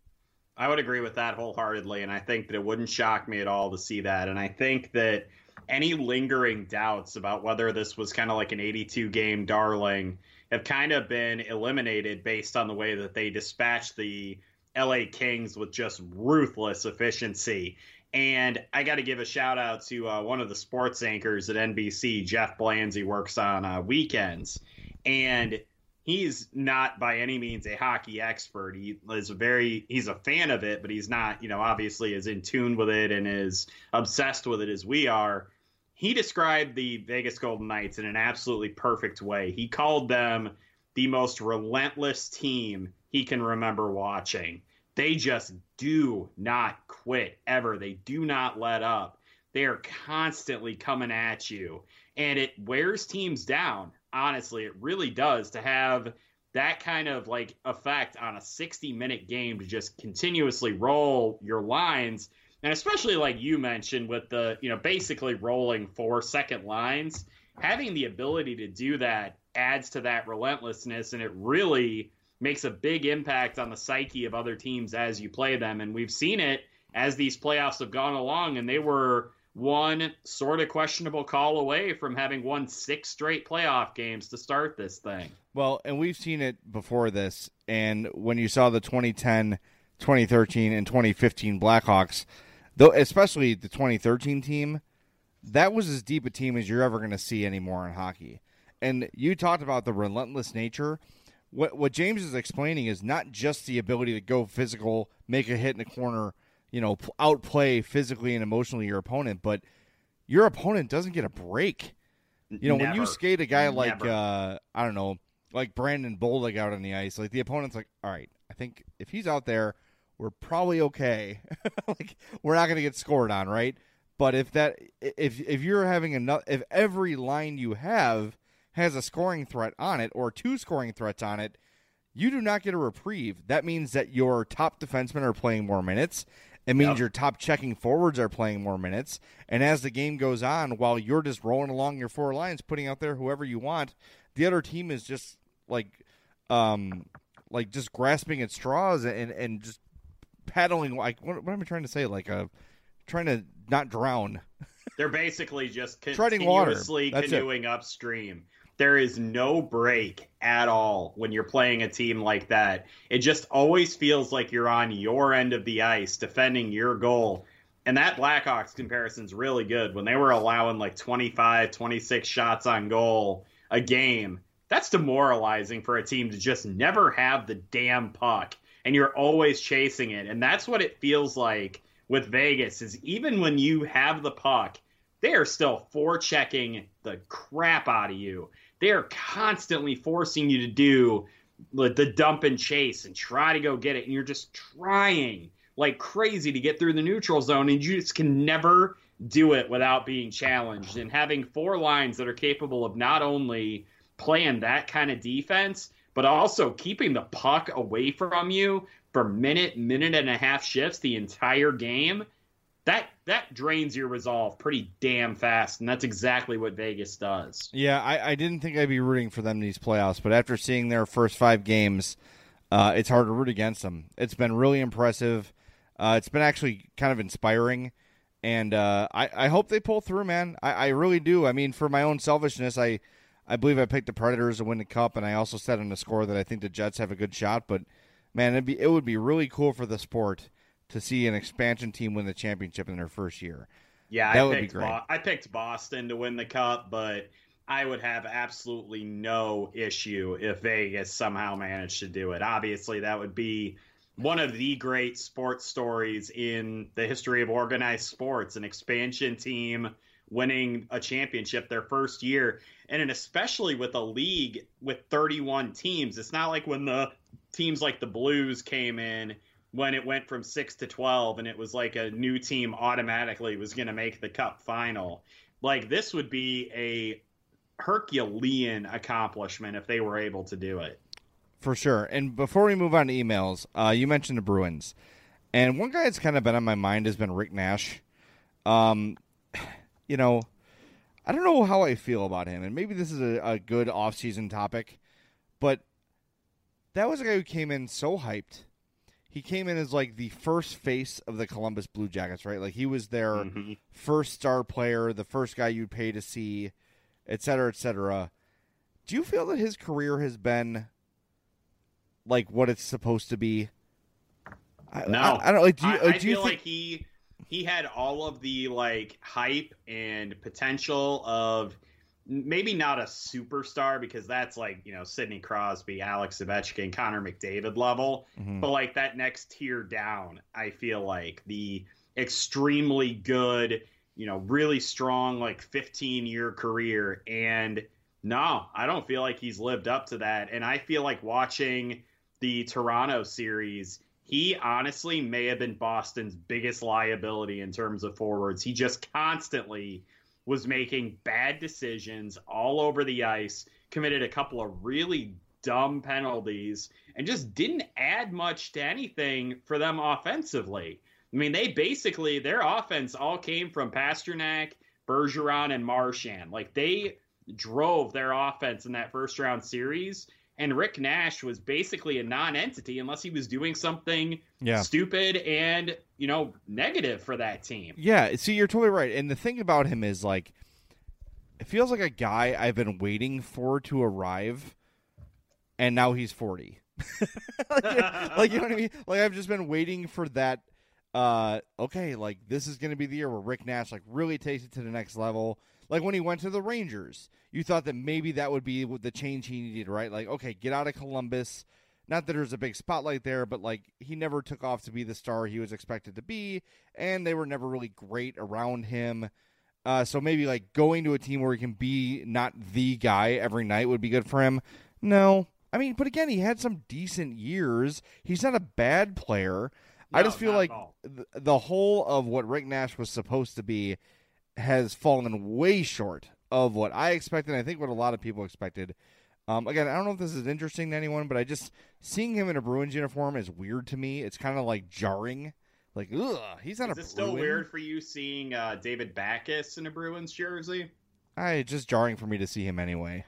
I would agree with that wholeheartedly, and I think that it wouldn't shock me at all to see that. And I think that any lingering doubts about whether this was kind of like an eighty-two game darling have kind of been eliminated based on the way that they dispatched the L A Kings with just ruthless efficiency. And I got to give a shout out to uh, one of the sports anchors at N B C, Jeff Blands. He works on uh, weekends, and he's not by any means a hockey expert. He is a very, he's a fan of it, but he's not, you know, obviously as in tune with it and as obsessed with it as we are. He described the Vegas Golden Knights in an absolutely perfect way. He called them the most relentless team he can remember watching. They just do not quit ever. They do not let up. They are constantly coming at you. And it wears teams down. Honestly, it really does, to have that kind of like effect on a sixty minute game, to just continuously roll your lines. And especially like you mentioned with the, you know, basically rolling four second lines, having the ability to do that adds to that relentlessness. And it really makes a big impact on the psyche of other teams as you play them. And we've seen it as these playoffs have gone along, and they were one sort of questionable call away from having won six straight playoff games to start this thing. Well, and we've seen it before this, and when you saw the twenty ten, twenty thirteen, and twenty fifteen Blackhawks, though, especially the twenty thirteen team, that was as deep a team as you're ever going to see anymore in hockey. And you talked about the relentless nature. What what James is explaining is not just the ability to go physical, make a hit in the corner, you know, outplay physically and emotionally your opponent, but your opponent doesn't get a break. You know, Never. When you skate a guy Never. like, uh, I don't know, like Brandon Bollig out on the ice, like the opponent's like, all right, I think if he's out there, we're probably okay. Like, we're not going to get scored on, right? But if that, if if you're having enough, if every line you have has a scoring threat on it or two scoring threats on it, you do not get a reprieve. That means that your top defensemen are playing more minutes. It means yep. your top checking forwards are playing more minutes. And as the game goes on, while you're just rolling along your four lines, putting out there whoever you want, the other team is just like, um, like just grasping at straws and, and just paddling. Like, what, what am I trying to say? Like, a, trying to not drown. They're basically just treading water. continuously canoeing upstream. There is no break at all when you're playing a team like that. It just always feels like you're on your end of the ice defending your goal. And that Blackhawks comparison is really good. When they were allowing like twenty-five, twenty-six shots on goal a game, that's demoralizing for a team to just never have the damn puck. And you're always chasing it. And that's what it feels like with Vegas, is even when you have the puck, they are still forechecking the crap out of you. They are constantly forcing you to do the dump and chase and try to go get it. And you're just trying like crazy to get through the neutral zone, and you just can never do it without being challenged. And having four lines that are capable of not only playing that kind of defense, but also keeping the puck away from you, for minute, minute and a half shifts the entire game, that that drains your resolve pretty damn fast, and that's exactly what Vegas does. Yeah, I, I didn't think I'd be rooting for them in these playoffs, but after seeing their first five games, uh, it's hard to root against them. It's been really impressive. Uh, it's been actually kind of inspiring, and uh, I, I hope they pull through, man. I, I really do. I mean, for my own selfishness, I, I believe I picked the Predators to win the Cup, and I also said on the score that I think the Jets have a good shot, but, man, it'd be, it would be really cool for the sport to see an expansion team win the championship in their first year. Yeah, that I would picked be great. Bo- I picked Boston to win the Cup, but I would have absolutely no issue if Vegas somehow managed to do it. Obviously, that would be one of the great sports stories in the history of organized sports, an expansion team winning a championship their first year, and especially with a league with thirty-one teams. It's not like when the teams like the Blues came in when it went from six to twelve and it was like a new team automatically was going to make the Cup final. Like, this would be a Herculean accomplishment if they were able to do it. For sure. And before we move on to emails, uh, you mentioned the Bruins. And one guy that's kind of been on my mind has been Rick Nash. Um, you know, I don't know how I feel about him. And maybe this is a, a good off-season topic. But that was a guy who came in so hyped. He came in as, like, the first face of the Columbus Blue Jackets, right? Like, he was their mm-hmm. first star player, the first guy you'd pay to see, et cetera, et cetera. Do you feel that his career has been, like, what it's supposed to be? No. I, I, I don't like. Do you, I, I do you feel think... like he he had all of the, like, hype and potential of maybe not a superstar, because that's like, you know, Sidney Crosby, Alex Ovechkin, Connor McDavid level, mm-hmm. but like that next tier down, I feel like the extremely good, you know, really strong, like fifteen year career. And no, I don't feel like he's lived up to that. And I feel like watching the Toronto series, he honestly may have been Boston's biggest liability in terms of forwards. He just constantly was making bad decisions all over the ice, committed a couple of really dumb penalties, and just didn't add much to anything for them offensively. I mean, they basically, their offense all came from Pasternak, Bergeron, and Marchand. Like, they drove their offense in that first round series, and Rick Nash was basically a non-entity unless he was doing something yeah. stupid and, you know, negative for that team. Yeah, see, you're totally right. And the thing about him is, like, it feels like a guy I've been waiting for to arrive, and now he's forty. like, like, you know what I mean? Like, I've just been waiting for that, uh, okay, like, this is going to be the year where Rick Nash, like, really takes it to the next level. Like, when he went to the Rangers, you thought that maybe that would be the change he needed, right? Like, okay, get out of Columbus. Not that there's a big spotlight there, but, like, he never took off to be the star he was expected to be, and they were never really great around him. Uh, so maybe, like, going to a team where he can be not the guy every night would be good for him. No. I mean, but again, he had some decent years. He's not a bad player. No, I just feel like th- the whole of what Rick Nash was supposed to be has fallen way short of what I expected, and I think what a lot of people expected. Um, again, I don't know if this is interesting to anyone, but I just, seeing him in a Bruins uniform is weird to me. It's kind of like jarring. Like, ugh, he's not is a Bruin. Is it still weird for you seeing uh, David Backes in a Bruins jersey? I, it's just jarring for me to see him anyway.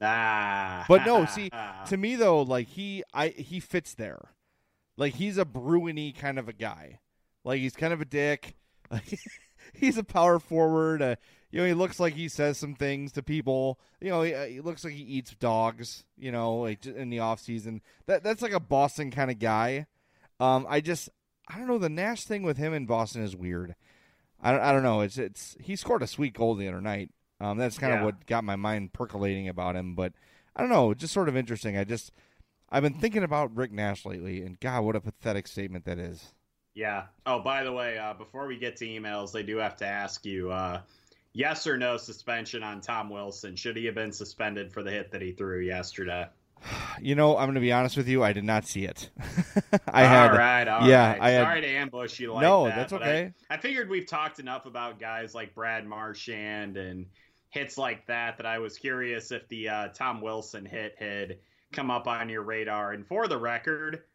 Ah. But no, see, to me though, like, he I he fits there. Like, he's a Bruin-y kind of a guy. Like, he's kind of a dick. Like, he's a power forward. Uh, you know, he looks like he says some things to people. You know, he, uh, he looks like he eats dogs, you know, like in the off season. That That's like a Boston kind of guy. Um, I just, I don't know, the Nash thing with him in Boston is weird. I don't, I don't know. It's it's He scored a sweet goal the other night. Um, that's kind of yeah. what got my mind percolating about him. But I don't know, just sort of interesting. I just, I've been thinking about Rick Nash lately, and God, what a pathetic statement that is. Yeah. Oh, by the way, uh, before we get to emails, they do have to ask you, uh, yes or no suspension on Tom Wilson. Should he have been suspended for the hit that he threw yesterday? You know, I'm going to be honest with you. I did not see it. I all had, right, all yeah, right. I had, Sorry to ambush you like no, that. No, that's but okay. I, I figured we've talked enough about guys like Brad Marchand and hits like that that I was curious if the uh, Tom Wilson hit had come up on your radar. And for the record,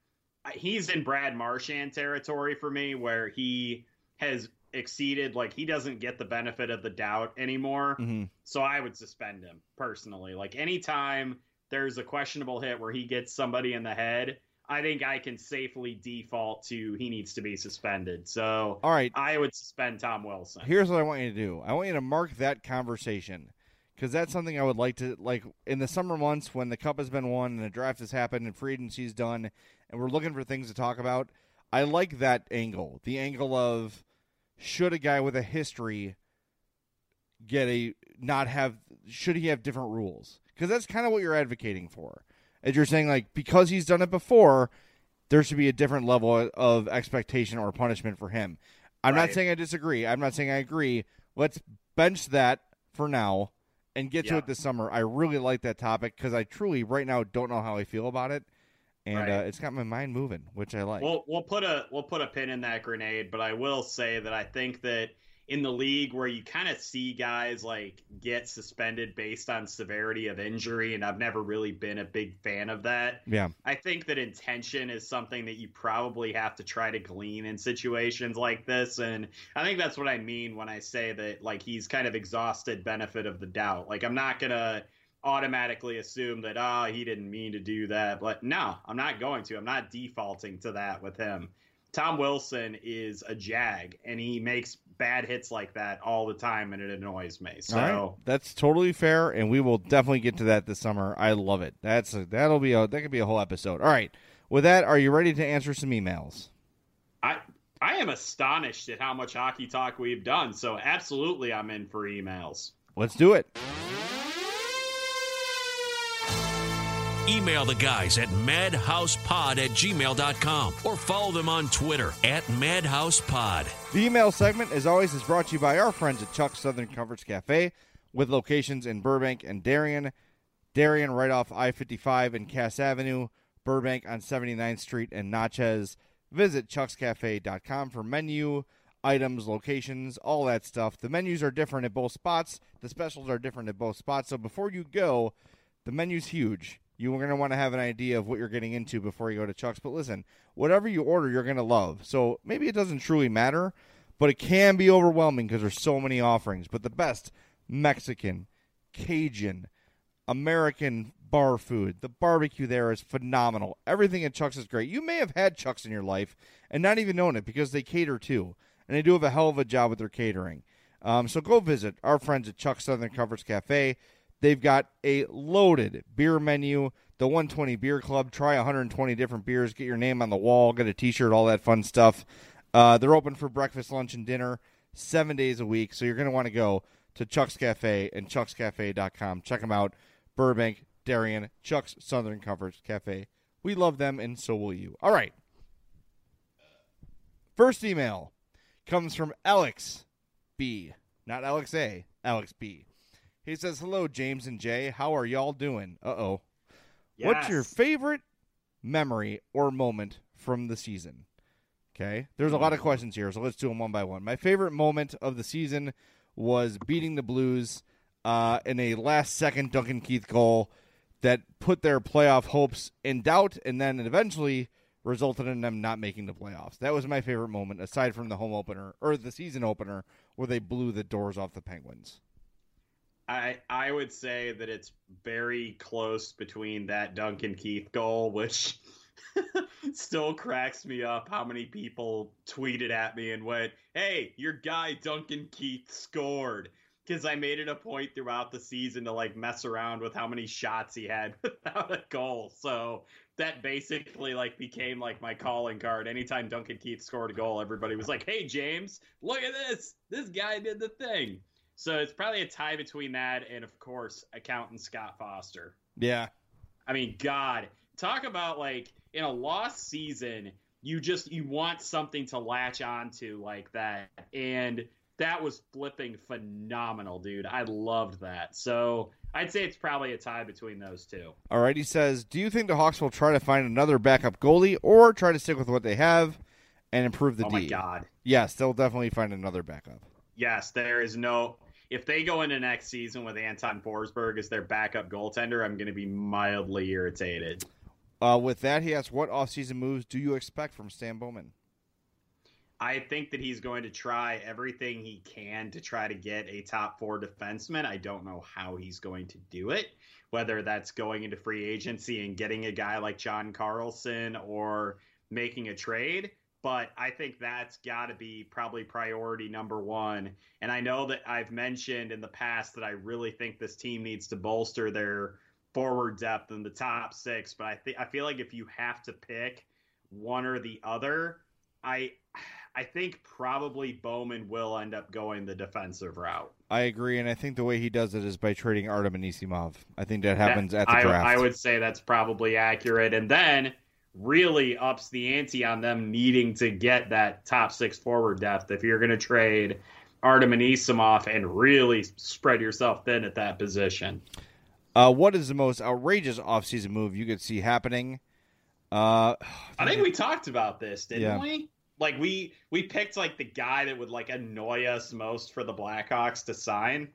he's in Brad Marchand territory for me, where he has exceeded, like, he doesn't get the benefit of the doubt anymore. Mm-hmm. So I would suspend him personally. Like, anytime there's a questionable hit where he gets somebody in the head, I think I can safely default to he needs to be suspended. So all right, I would suspend Tom Wilson. Here's what I want you to do. I want you to mark that conversation, because that's something I would like to, like, in the summer months when the Cup has been won and the draft has happened and free agency's done and we're looking for things to talk about. I like that angle, the angle of should a guy with a history get a not have should he have different rules? Because that's kind of what you're advocating for. As you're saying, like, because he's done it before, there should be a different level of expectation or punishment for him. I'm right. not saying I disagree. I'm not saying I agree. Let's bench that for now and get yeah. to it this summer. I really like that topic because I truly, right now, don't know how I feel about it. And right. uh, it's got my mind moving, which I like. We'll, we'll, put a, we'll put a pin in that grenade, but I will say that I think that in the league where you kind of see guys like get suspended based on severity of injury, and I've never really been a big fan of that. Yeah. I think that intention is something that you probably have to try to glean in situations like this. And I think that's what I mean when I say that, like, he's kind of exhausted benefit of the doubt. Like, I'm not going to automatically assume that, oh, he didn't mean to do that. But no, I'm not going to. I'm not defaulting to that with him. Tom Wilson is a jag, and he makes bad hits like that all the time, and it annoys me. So right. That's totally fair, and we will definitely get to that this summer. I love it. That's a, that'll be a that could be a whole episode. All right. With that, are you ready to answer some emails? I I am astonished at how much hockey talk we've done. So absolutely, I'm in for emails. Let's do it. Email the guys at madhousepod at gmail dot com or follow them on Twitter at madhousepod. The email segment, as always, is brought to you by our friends at Chuck's Southern Comforts Cafe, with locations in Burbank and Darien. Darien right off I fifty-five and Cass Avenue, Burbank on seventy-ninth Street and Natchez. Visit chucks cafe dot com for menu, items, locations, all that stuff. The menus are different at both spots. The specials are different at both spots. So before you go, the menu's huge. You're going to want to have an idea of what you're getting into before you go to Chuck's. But listen, whatever you order, you're going to love. So maybe it doesn't truly matter, but it can be overwhelming because there's so many offerings. But the best Mexican, Cajun, American bar food, the barbecue there is phenomenal. Everything at Chuck's is great. You may have had Chuck's in your life and not even known it because they cater too. And they do have a hell of a job with their catering. Um, so go visit our friends at Chuck's Southern Comforts Cafe. They've got a loaded beer menu, the one twenty Beer Club. Try one hundred twenty different beers. Get your name on the wall. Get a T-shirt, all that fun stuff. Uh, they're open for breakfast, lunch, and dinner seven days a week. So you're going to want to go to Chuck's Cafe and chucks cafe dot com. Check them out. Burbank, Darien, Chuck's Southern Comforts Cafe. We love them, and so will you. All right. First email comes from Alex B. Not Alex A. Alex B. He says, hello, James and Jay. How are y'all doing? Uh-oh. Yes. What's your favorite memory or moment from the season? Okay. There's a lot of questions here, so let's do them one by one. My favorite moment of the season was beating the Blues uh, in a last-second Duncan Keith goal that put their playoff hopes in doubt and then eventually resulted in them not making the playoffs. That was my favorite moment, aside from the home opener, or the season opener, where they blew the doors off the Penguins. I I would say that it's very close between that Duncan Keith goal, which still cracks me up how many people tweeted at me and went, hey, your guy Duncan Keith scored. Because I made it a point throughout the season to, like, mess around with how many shots he had without a goal. So that basically, like, became, like, my calling card. Anytime Duncan Keith scored a goal, everybody was like, hey, James, look at this. This guy did the thing. So it's probably a tie between that and, of course, accountant Scott Foster. Yeah. I mean, God, talk about, like, in a lost season, you just, you want something to latch onto like that. And that was flipping phenomenal, dude. I loved that. So I'd say it's probably a tie between those two. All right. He says, do you think the Hawks will try to find another backup goalie or try to stick with what they have and improve the oh D? Oh, my God. Yes, they'll definitely find another backup. Yes, there is no... If they go into next season with Anton Forsberg as their backup goaltender, I'm going to be mildly irritated. Uh, with that, he asks, what offseason moves do you expect from Stan Bowman? I think that he's going to try everything he can to try to get a top four defenseman. I don't know how he's going to do it, whether that's going into free agency and getting a guy like John Carlson or making a trade. But I think that's got to be probably priority number one. And I know that I've mentioned in the past that I really think this team needs to bolster their forward depth in the top six. But I think I feel like if you have to pick one or the other, I I think probably Bowman will end up going the defensive route. I agree, and I think the way he does it is by trading Artem Anisimov. I think that happens that, at the I, draft. I would say that's probably accurate. And then really ups the ante on them needing to get that top six forward depth if you're going to trade Artem Anisimov and really spread yourself thin at that position. Uh, what is the most outrageous offseason move you could see happening? Uh, I think we talked about this, didn't yeah. we? Like we we picked like the guy that would like annoy us most for the Blackhawks to sign.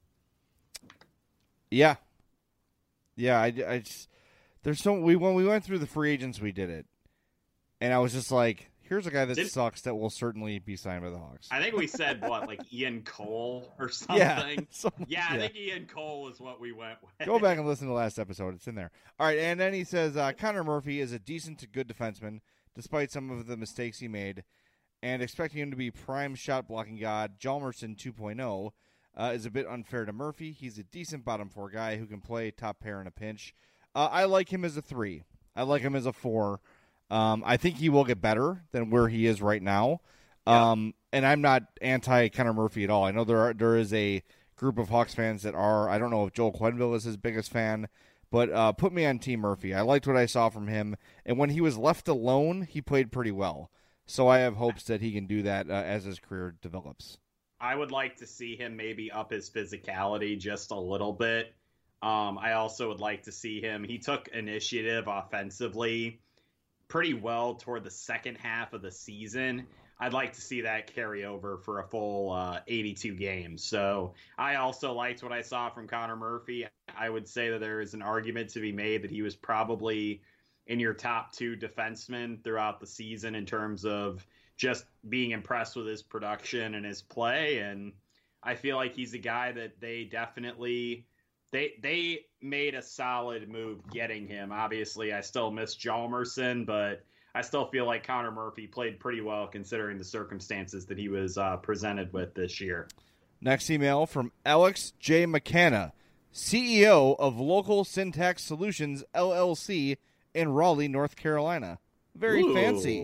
Yeah, yeah. I, I just, there's so we when we went through the free agents, we did it, and I was just like, here's a guy that Did, sucks that will certainly be signed by the Hawks. I think we said what, like Ian Cole or something. Yeah, some, yeah, I yeah. think Ian Cole is what we went with. Go back and listen to the last episode; it's in there. All right, and then he says uh, Connor Murphy is a decent to good defenseman, despite some of the mistakes he made, and expecting him to be prime shot blocking god Hjalmarsson two point oh uh, is a bit unfair to Murphy. He's a decent bottom four guy who can play top pair in a pinch. Uh, I like him as a three. I like him as a four. Um, I think he will get better than where he is right now. Um, yeah. And I'm not anti Connor Murphy at all. I know there are, there is a group of Hawks fans that are. I don't know if Joel Quenneville is his biggest fan. But uh, put me on Team Murphy. I liked what I saw from him. And when he was left alone, he played pretty well. So I have hopes that he can do that uh, as his career develops. I would like to see him maybe up his physicality just a little bit. Um, I also would like to see him. He took initiative offensively pretty well toward the second half of the season. I'd like to see that carry over for a full uh, eighty-two games. So I also liked what I saw from Connor Murphy. I would say that there is an argument to be made that he was probably in your top two defensemen throughout the season in terms of just being impressed with his production and his play. And I feel like he's a guy that they definitely they they made a solid move getting him. Obviously, I still miss Hjalmarsson, but I still feel like Connor Murphy played pretty well considering the circumstances that he was uh, presented with this year. Next email from Alex J. McKenna, C E O of Local Syntax Solutions, L L C, in Raleigh, North Carolina. Very Ooh. fancy.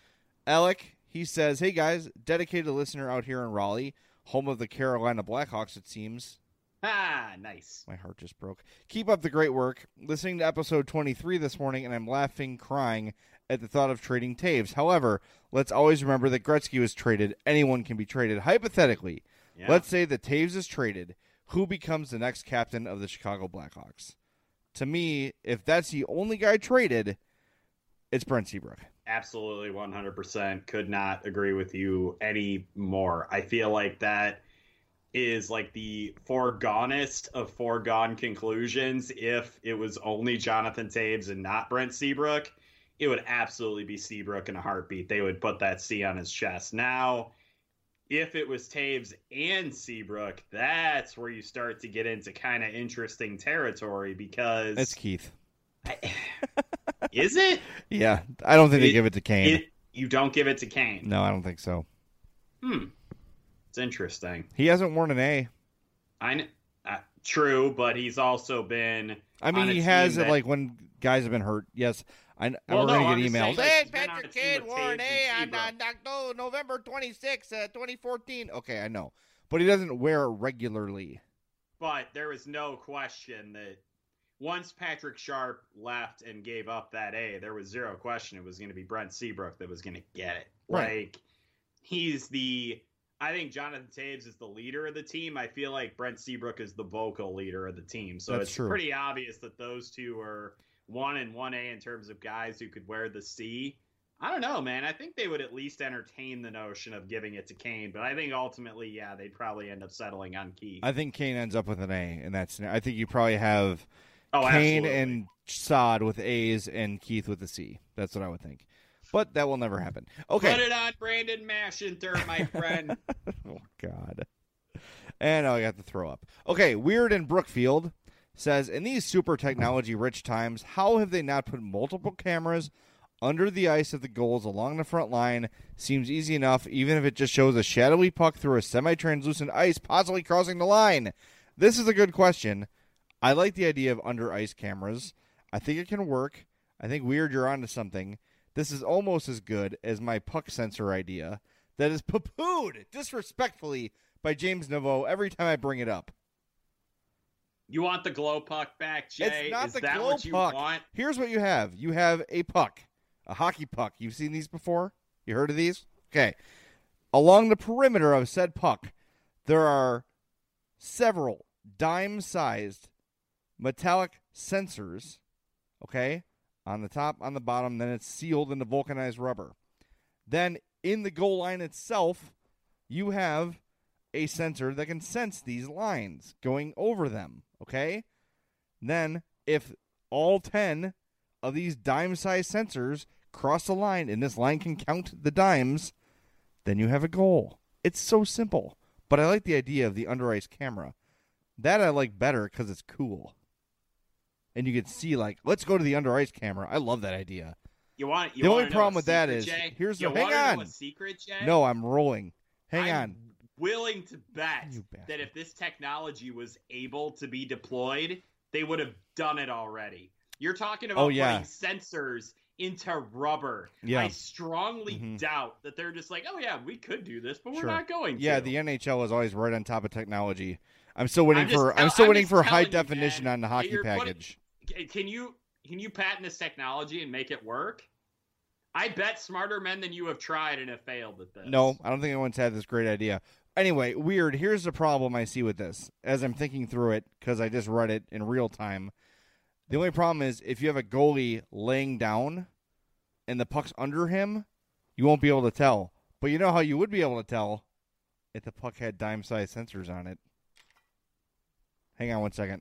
Alec, he says, hey guys, dedicated listener out here in Raleigh, home of the Carolina Blackhawks, it seems. Ah, nice. My heart just broke. Keep up the great work. Listening to episode twenty-three this morning, and I'm laughing, crying at the thought of trading Taves. However, let's always remember that Gretzky was traded. Anyone can be traded. Hypothetically, yeah. Let's say that Taves is traded. Who becomes the next captain of the Chicago Blackhawks? To me, if that's the only guy traded, it's Brent Seabrook. Absolutely, one hundred percent. Could not agree with you any more. I feel like that is like the foregonest of foregone conclusions. If it was only Jonathan Taves and not Brent Seabrook, it would absolutely be Seabrook in a heartbeat. They would put that C on his chest. Now, if it was Taves and Seabrook, that's where you start to get into kind of interesting territory because... That's Keith. I, is it? Yeah. I don't think it, they give it to Kane. It, you don't give it to Kane? No, I don't think so. Hmm. It's interesting. He hasn't worn an A. I uh, True, but he's also been... I mean, he has it like when guys have been hurt. Yes. I, I'm well, no, going to get emails. Saying, hey, like, Patrick Kane wore an A on, on, on November twenty-sixth, uh, twenty fourteen. Okay, I know. But he doesn't wear it regularly. But there was no question that once Patrick Sharp left and gave up that A, there was zero question it was going to be Brent Seabrook that was going to get it. Right. Like, he's the... I think Jonathan Taves is the leader of the team. I feel like Brent Seabrook is the vocal leader of the team. So That's it's true. pretty obvious that those two are one and one A in terms of guys who could wear the C. I don't know, man. I think they would at least entertain the notion of giving it to Kane. But I think ultimately, yeah, they'd probably end up settling on Keith. I think Kane ends up with an A, and that's. I think you probably have oh, Kane absolutely. and Sod with A's and Keith with a C. That's what I would think. But that will never happen. Okay. Put it on Brandon Mashinter, my friend. Oh, God. And I got to throw up. Okay, Weird in Brookfield says, in these super technology-rich times, how have they not put multiple cameras under the ice at the goals along the front line? Seems easy enough, even if it just shows a shadowy puck through a semi-translucent ice, possibly crossing the line. This is a good question. I like the idea of under-ice cameras. I think it can work. I think, Weird, you're onto something. This is almost as good as my puck sensor idea that is poo-pooed disrespectfully by James Naveau every time I bring it up. You want the glow puck back, Jay? It's not is the that glow what you puck. want? Here's what you have. You have a puck, a hockey puck. You've seen these before? You heard of these? Okay. Along the perimeter of said puck, there are several dime-sized metallic sensors, okay, on the top, on the bottom, then it's sealed into vulcanized rubber. Then in the goal line itself, you have a sensor that can sense these lines going over them, okay? Then if all ten of these dime-sized sensors cross the line and this line can count the dimes, then you have a goal. It's so simple. But I like the idea of the under-ice camera. That I like better because it's cool. And you can see, like, let's go to the under-ice camera. I love that idea. You want? You the want only problem with secret, that is, Jay? here's you the, hang want on. Know a secret, Jay? No, I'm rolling. Hang I'm on. willing to bet You bastard. that if this technology was able to be deployed, they would have done it already. You're talking about Oh, yeah. putting sensors into rubber. Yeah. I strongly Mhm. doubt that they're just like, oh yeah, we could do this, but we're Sure. not going Yeah, to. the N H L is always right on top of technology. I'm still waiting I'm just for tell- I'm still I'm waiting just for high telling you, definition man, on the that hockey you're putting- package. Can you can you patent this technology and make it work? I bet smarter men than you have tried and have failed at this. No, I don't think anyone's had this great idea. Anyway, Weird, here's the problem I see with this as I'm thinking through it because I just read it in real time. The only problem is if you have a goalie laying down and the puck's under him, you won't be able to tell. But you know how you would be able to tell if the puck had dime-sized sensors on it. Hang on one second.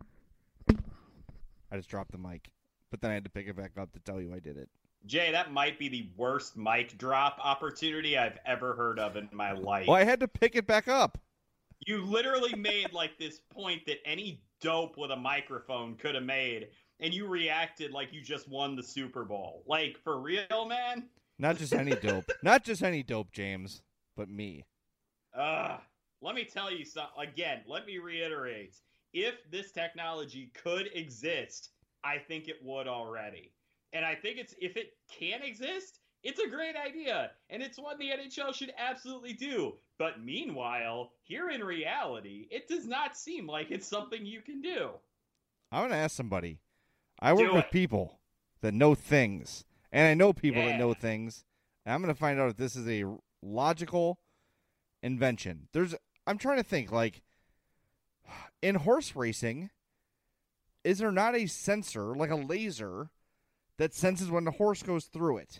I just dropped the mic, but then I had to pick it back up to tell you I did it. Jay, that might be the worst mic drop opportunity I've ever heard of in my life. Well, I had to pick it back up. You literally made like this point that any dope with a microphone could have made, and you reacted like you just won the Super Bowl. Like, for real, man? Not just any dope. Not just any dope, James, but me. Ugh. Let me tell you something. Again, let me reiterate. If this technology could exist, I think it would already. And I think it's if it can exist, it's a great idea. And it's one the N H L should absolutely do. But meanwhile, here in reality, it does not seem like it's something you can do. I'm going to ask somebody. I work Do with it. people that know things. And I know people Yeah. that know things. And I'm going to find out if this is a logical invention. There's I'm trying to think, like, in horse racing, is there not a sensor, like a laser, that senses when the horse goes through it?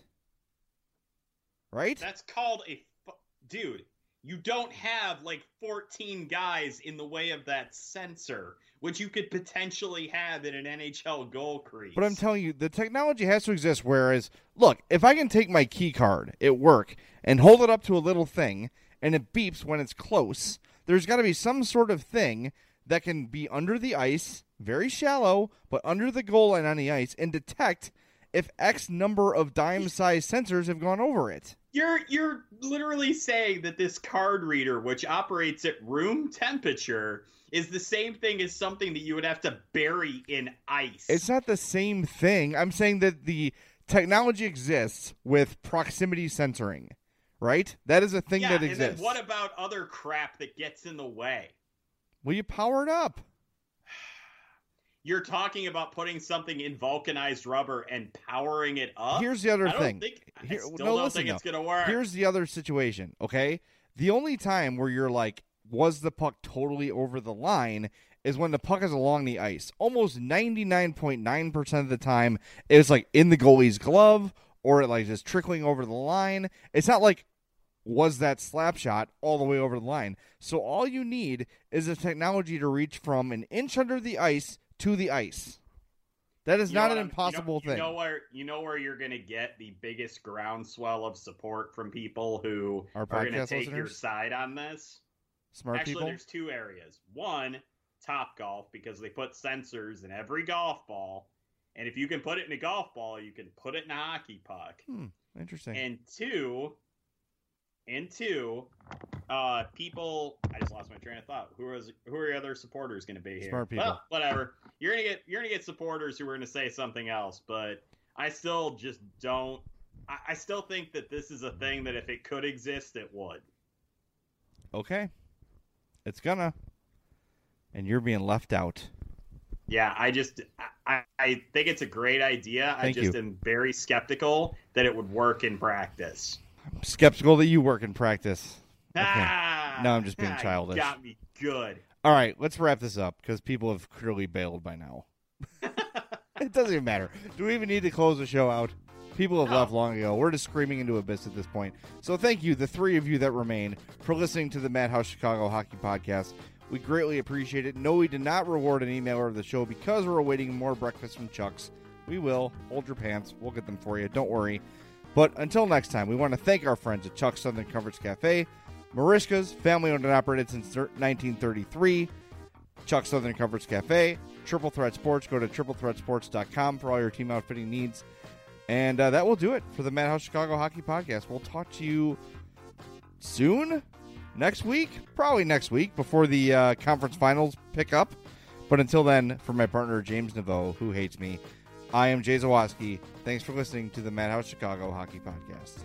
Right? That's called a... Fu- Dude, you don't have, like, fourteen guys in the way of that sensor, which you could potentially have in an N H L goal crease. But I'm telling you, the technology has to exist, whereas, look, if I can take my key card at work and hold it up to a little thing, and it beeps when it's close, there's got to be some sort of thing that can be under the ice, very shallow, but under the goal line on the ice, and detect if X number of dime-sized sensors have gone over it. You're you're literally saying that this card reader, which operates at room temperature, is the same thing as something that you would have to bury in ice. It's not the same thing. I'm saying that the technology exists with proximity censoring, right? That is a thing yeah, that and exists. then what about other crap that gets in the way? Will you power it up? You're talking about putting something in vulcanized rubber and powering it up? Here's the other I don't thing. Think, I Here- still no, don't listen, think no. it's going to work. Here's the other situation, okay? The only time where you're like, was the puck totally over the line is when the puck is along the ice. Almost ninety-nine point nine percent of the time, it's like in the goalie's glove or it like just trickling over the line. It's not like, was that slap shot all the way over the line? So all you need is a technology to reach from an inch under the ice to the ice. That is You know not what an I'm- impossible you know, thing. You know where you know where you're going to get the biggest groundswell of support from people who Our are going to podcast take your listeners? side on this. Smart Actually, people. there's two areas. One, Top Golf, because they put sensors in every golf ball, and if you can put it in a golf ball, you can put it in a hockey puck. Hmm, interesting. And two, and two, uh, people. I just lost my train of thought. Who is who are your other supporters going to be here? Smart people. Well, whatever. You're gonna get you're gonna get supporters who are going to say something else, but I still just don't. I, I still think that this is a thing that if it could exist, it would. Okay. It's gonna. And you're being left out. Yeah, I just I, I think it's a great idea. Thank I just you. am very skeptical that it would work in practice. I'm skeptical that you work in practice. Okay. Ah, No, I'm just being ah, you childish. Got me good. All right, let's wrap this up because people have clearly bailed by now. It doesn't even matter. Do we even need to close the show out? People have No. left long ago. We're just screaming into abyss at this point. So thank you, the three of you that remain, for listening to the Madhouse Chicago Hockey Podcast. We greatly appreciate it. No, we did not reward an emailer of the show because we're awaiting more breakfast from Chuck's. We will. Hold your pants. We'll get them for you. Don't worry. But until next time, we want to thank our friends at Chuck's Southern Comforts Cafe, Marishka's, family owned and operated since nineteen thirty-three. Chuck's Southern Comforts Cafe, Triple Threat Sports. Go to triple threat sports dot com for all your team outfitting needs. And uh, that will do it for the Madhouse Chicago Hockey Podcast. We'll talk to you soon, next week, probably next week before the uh, conference finals pick up. But until then, for my partner James Naveau, who hates me, I am Jay Zawoski. Thanks for listening to the Madhouse Chicago Hockey Podcast.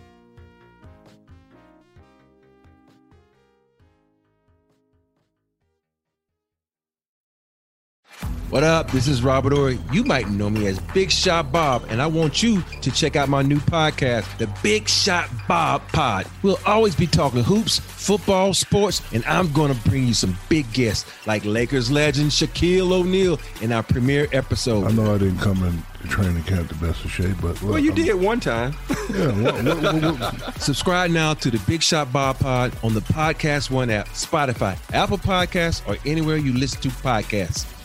What up? This is Robert Ory. You might know me as Big Shot Bob, and I want you to check out my new podcast, The Big Shot Bob Pod. We'll always be talking hoops, football, sports, and I'm going to bring you some big guests like Lakers legend Shaquille O'Neal in our premiere episode. I know I didn't come in training camp the best of shape, but look, Well, you I'm- did one time. Yeah, what, what, what, what, Subscribe now to the Big Shot Bob Pod on the Podcast One app, Spotify, Apple Podcasts, or anywhere you listen to podcasts.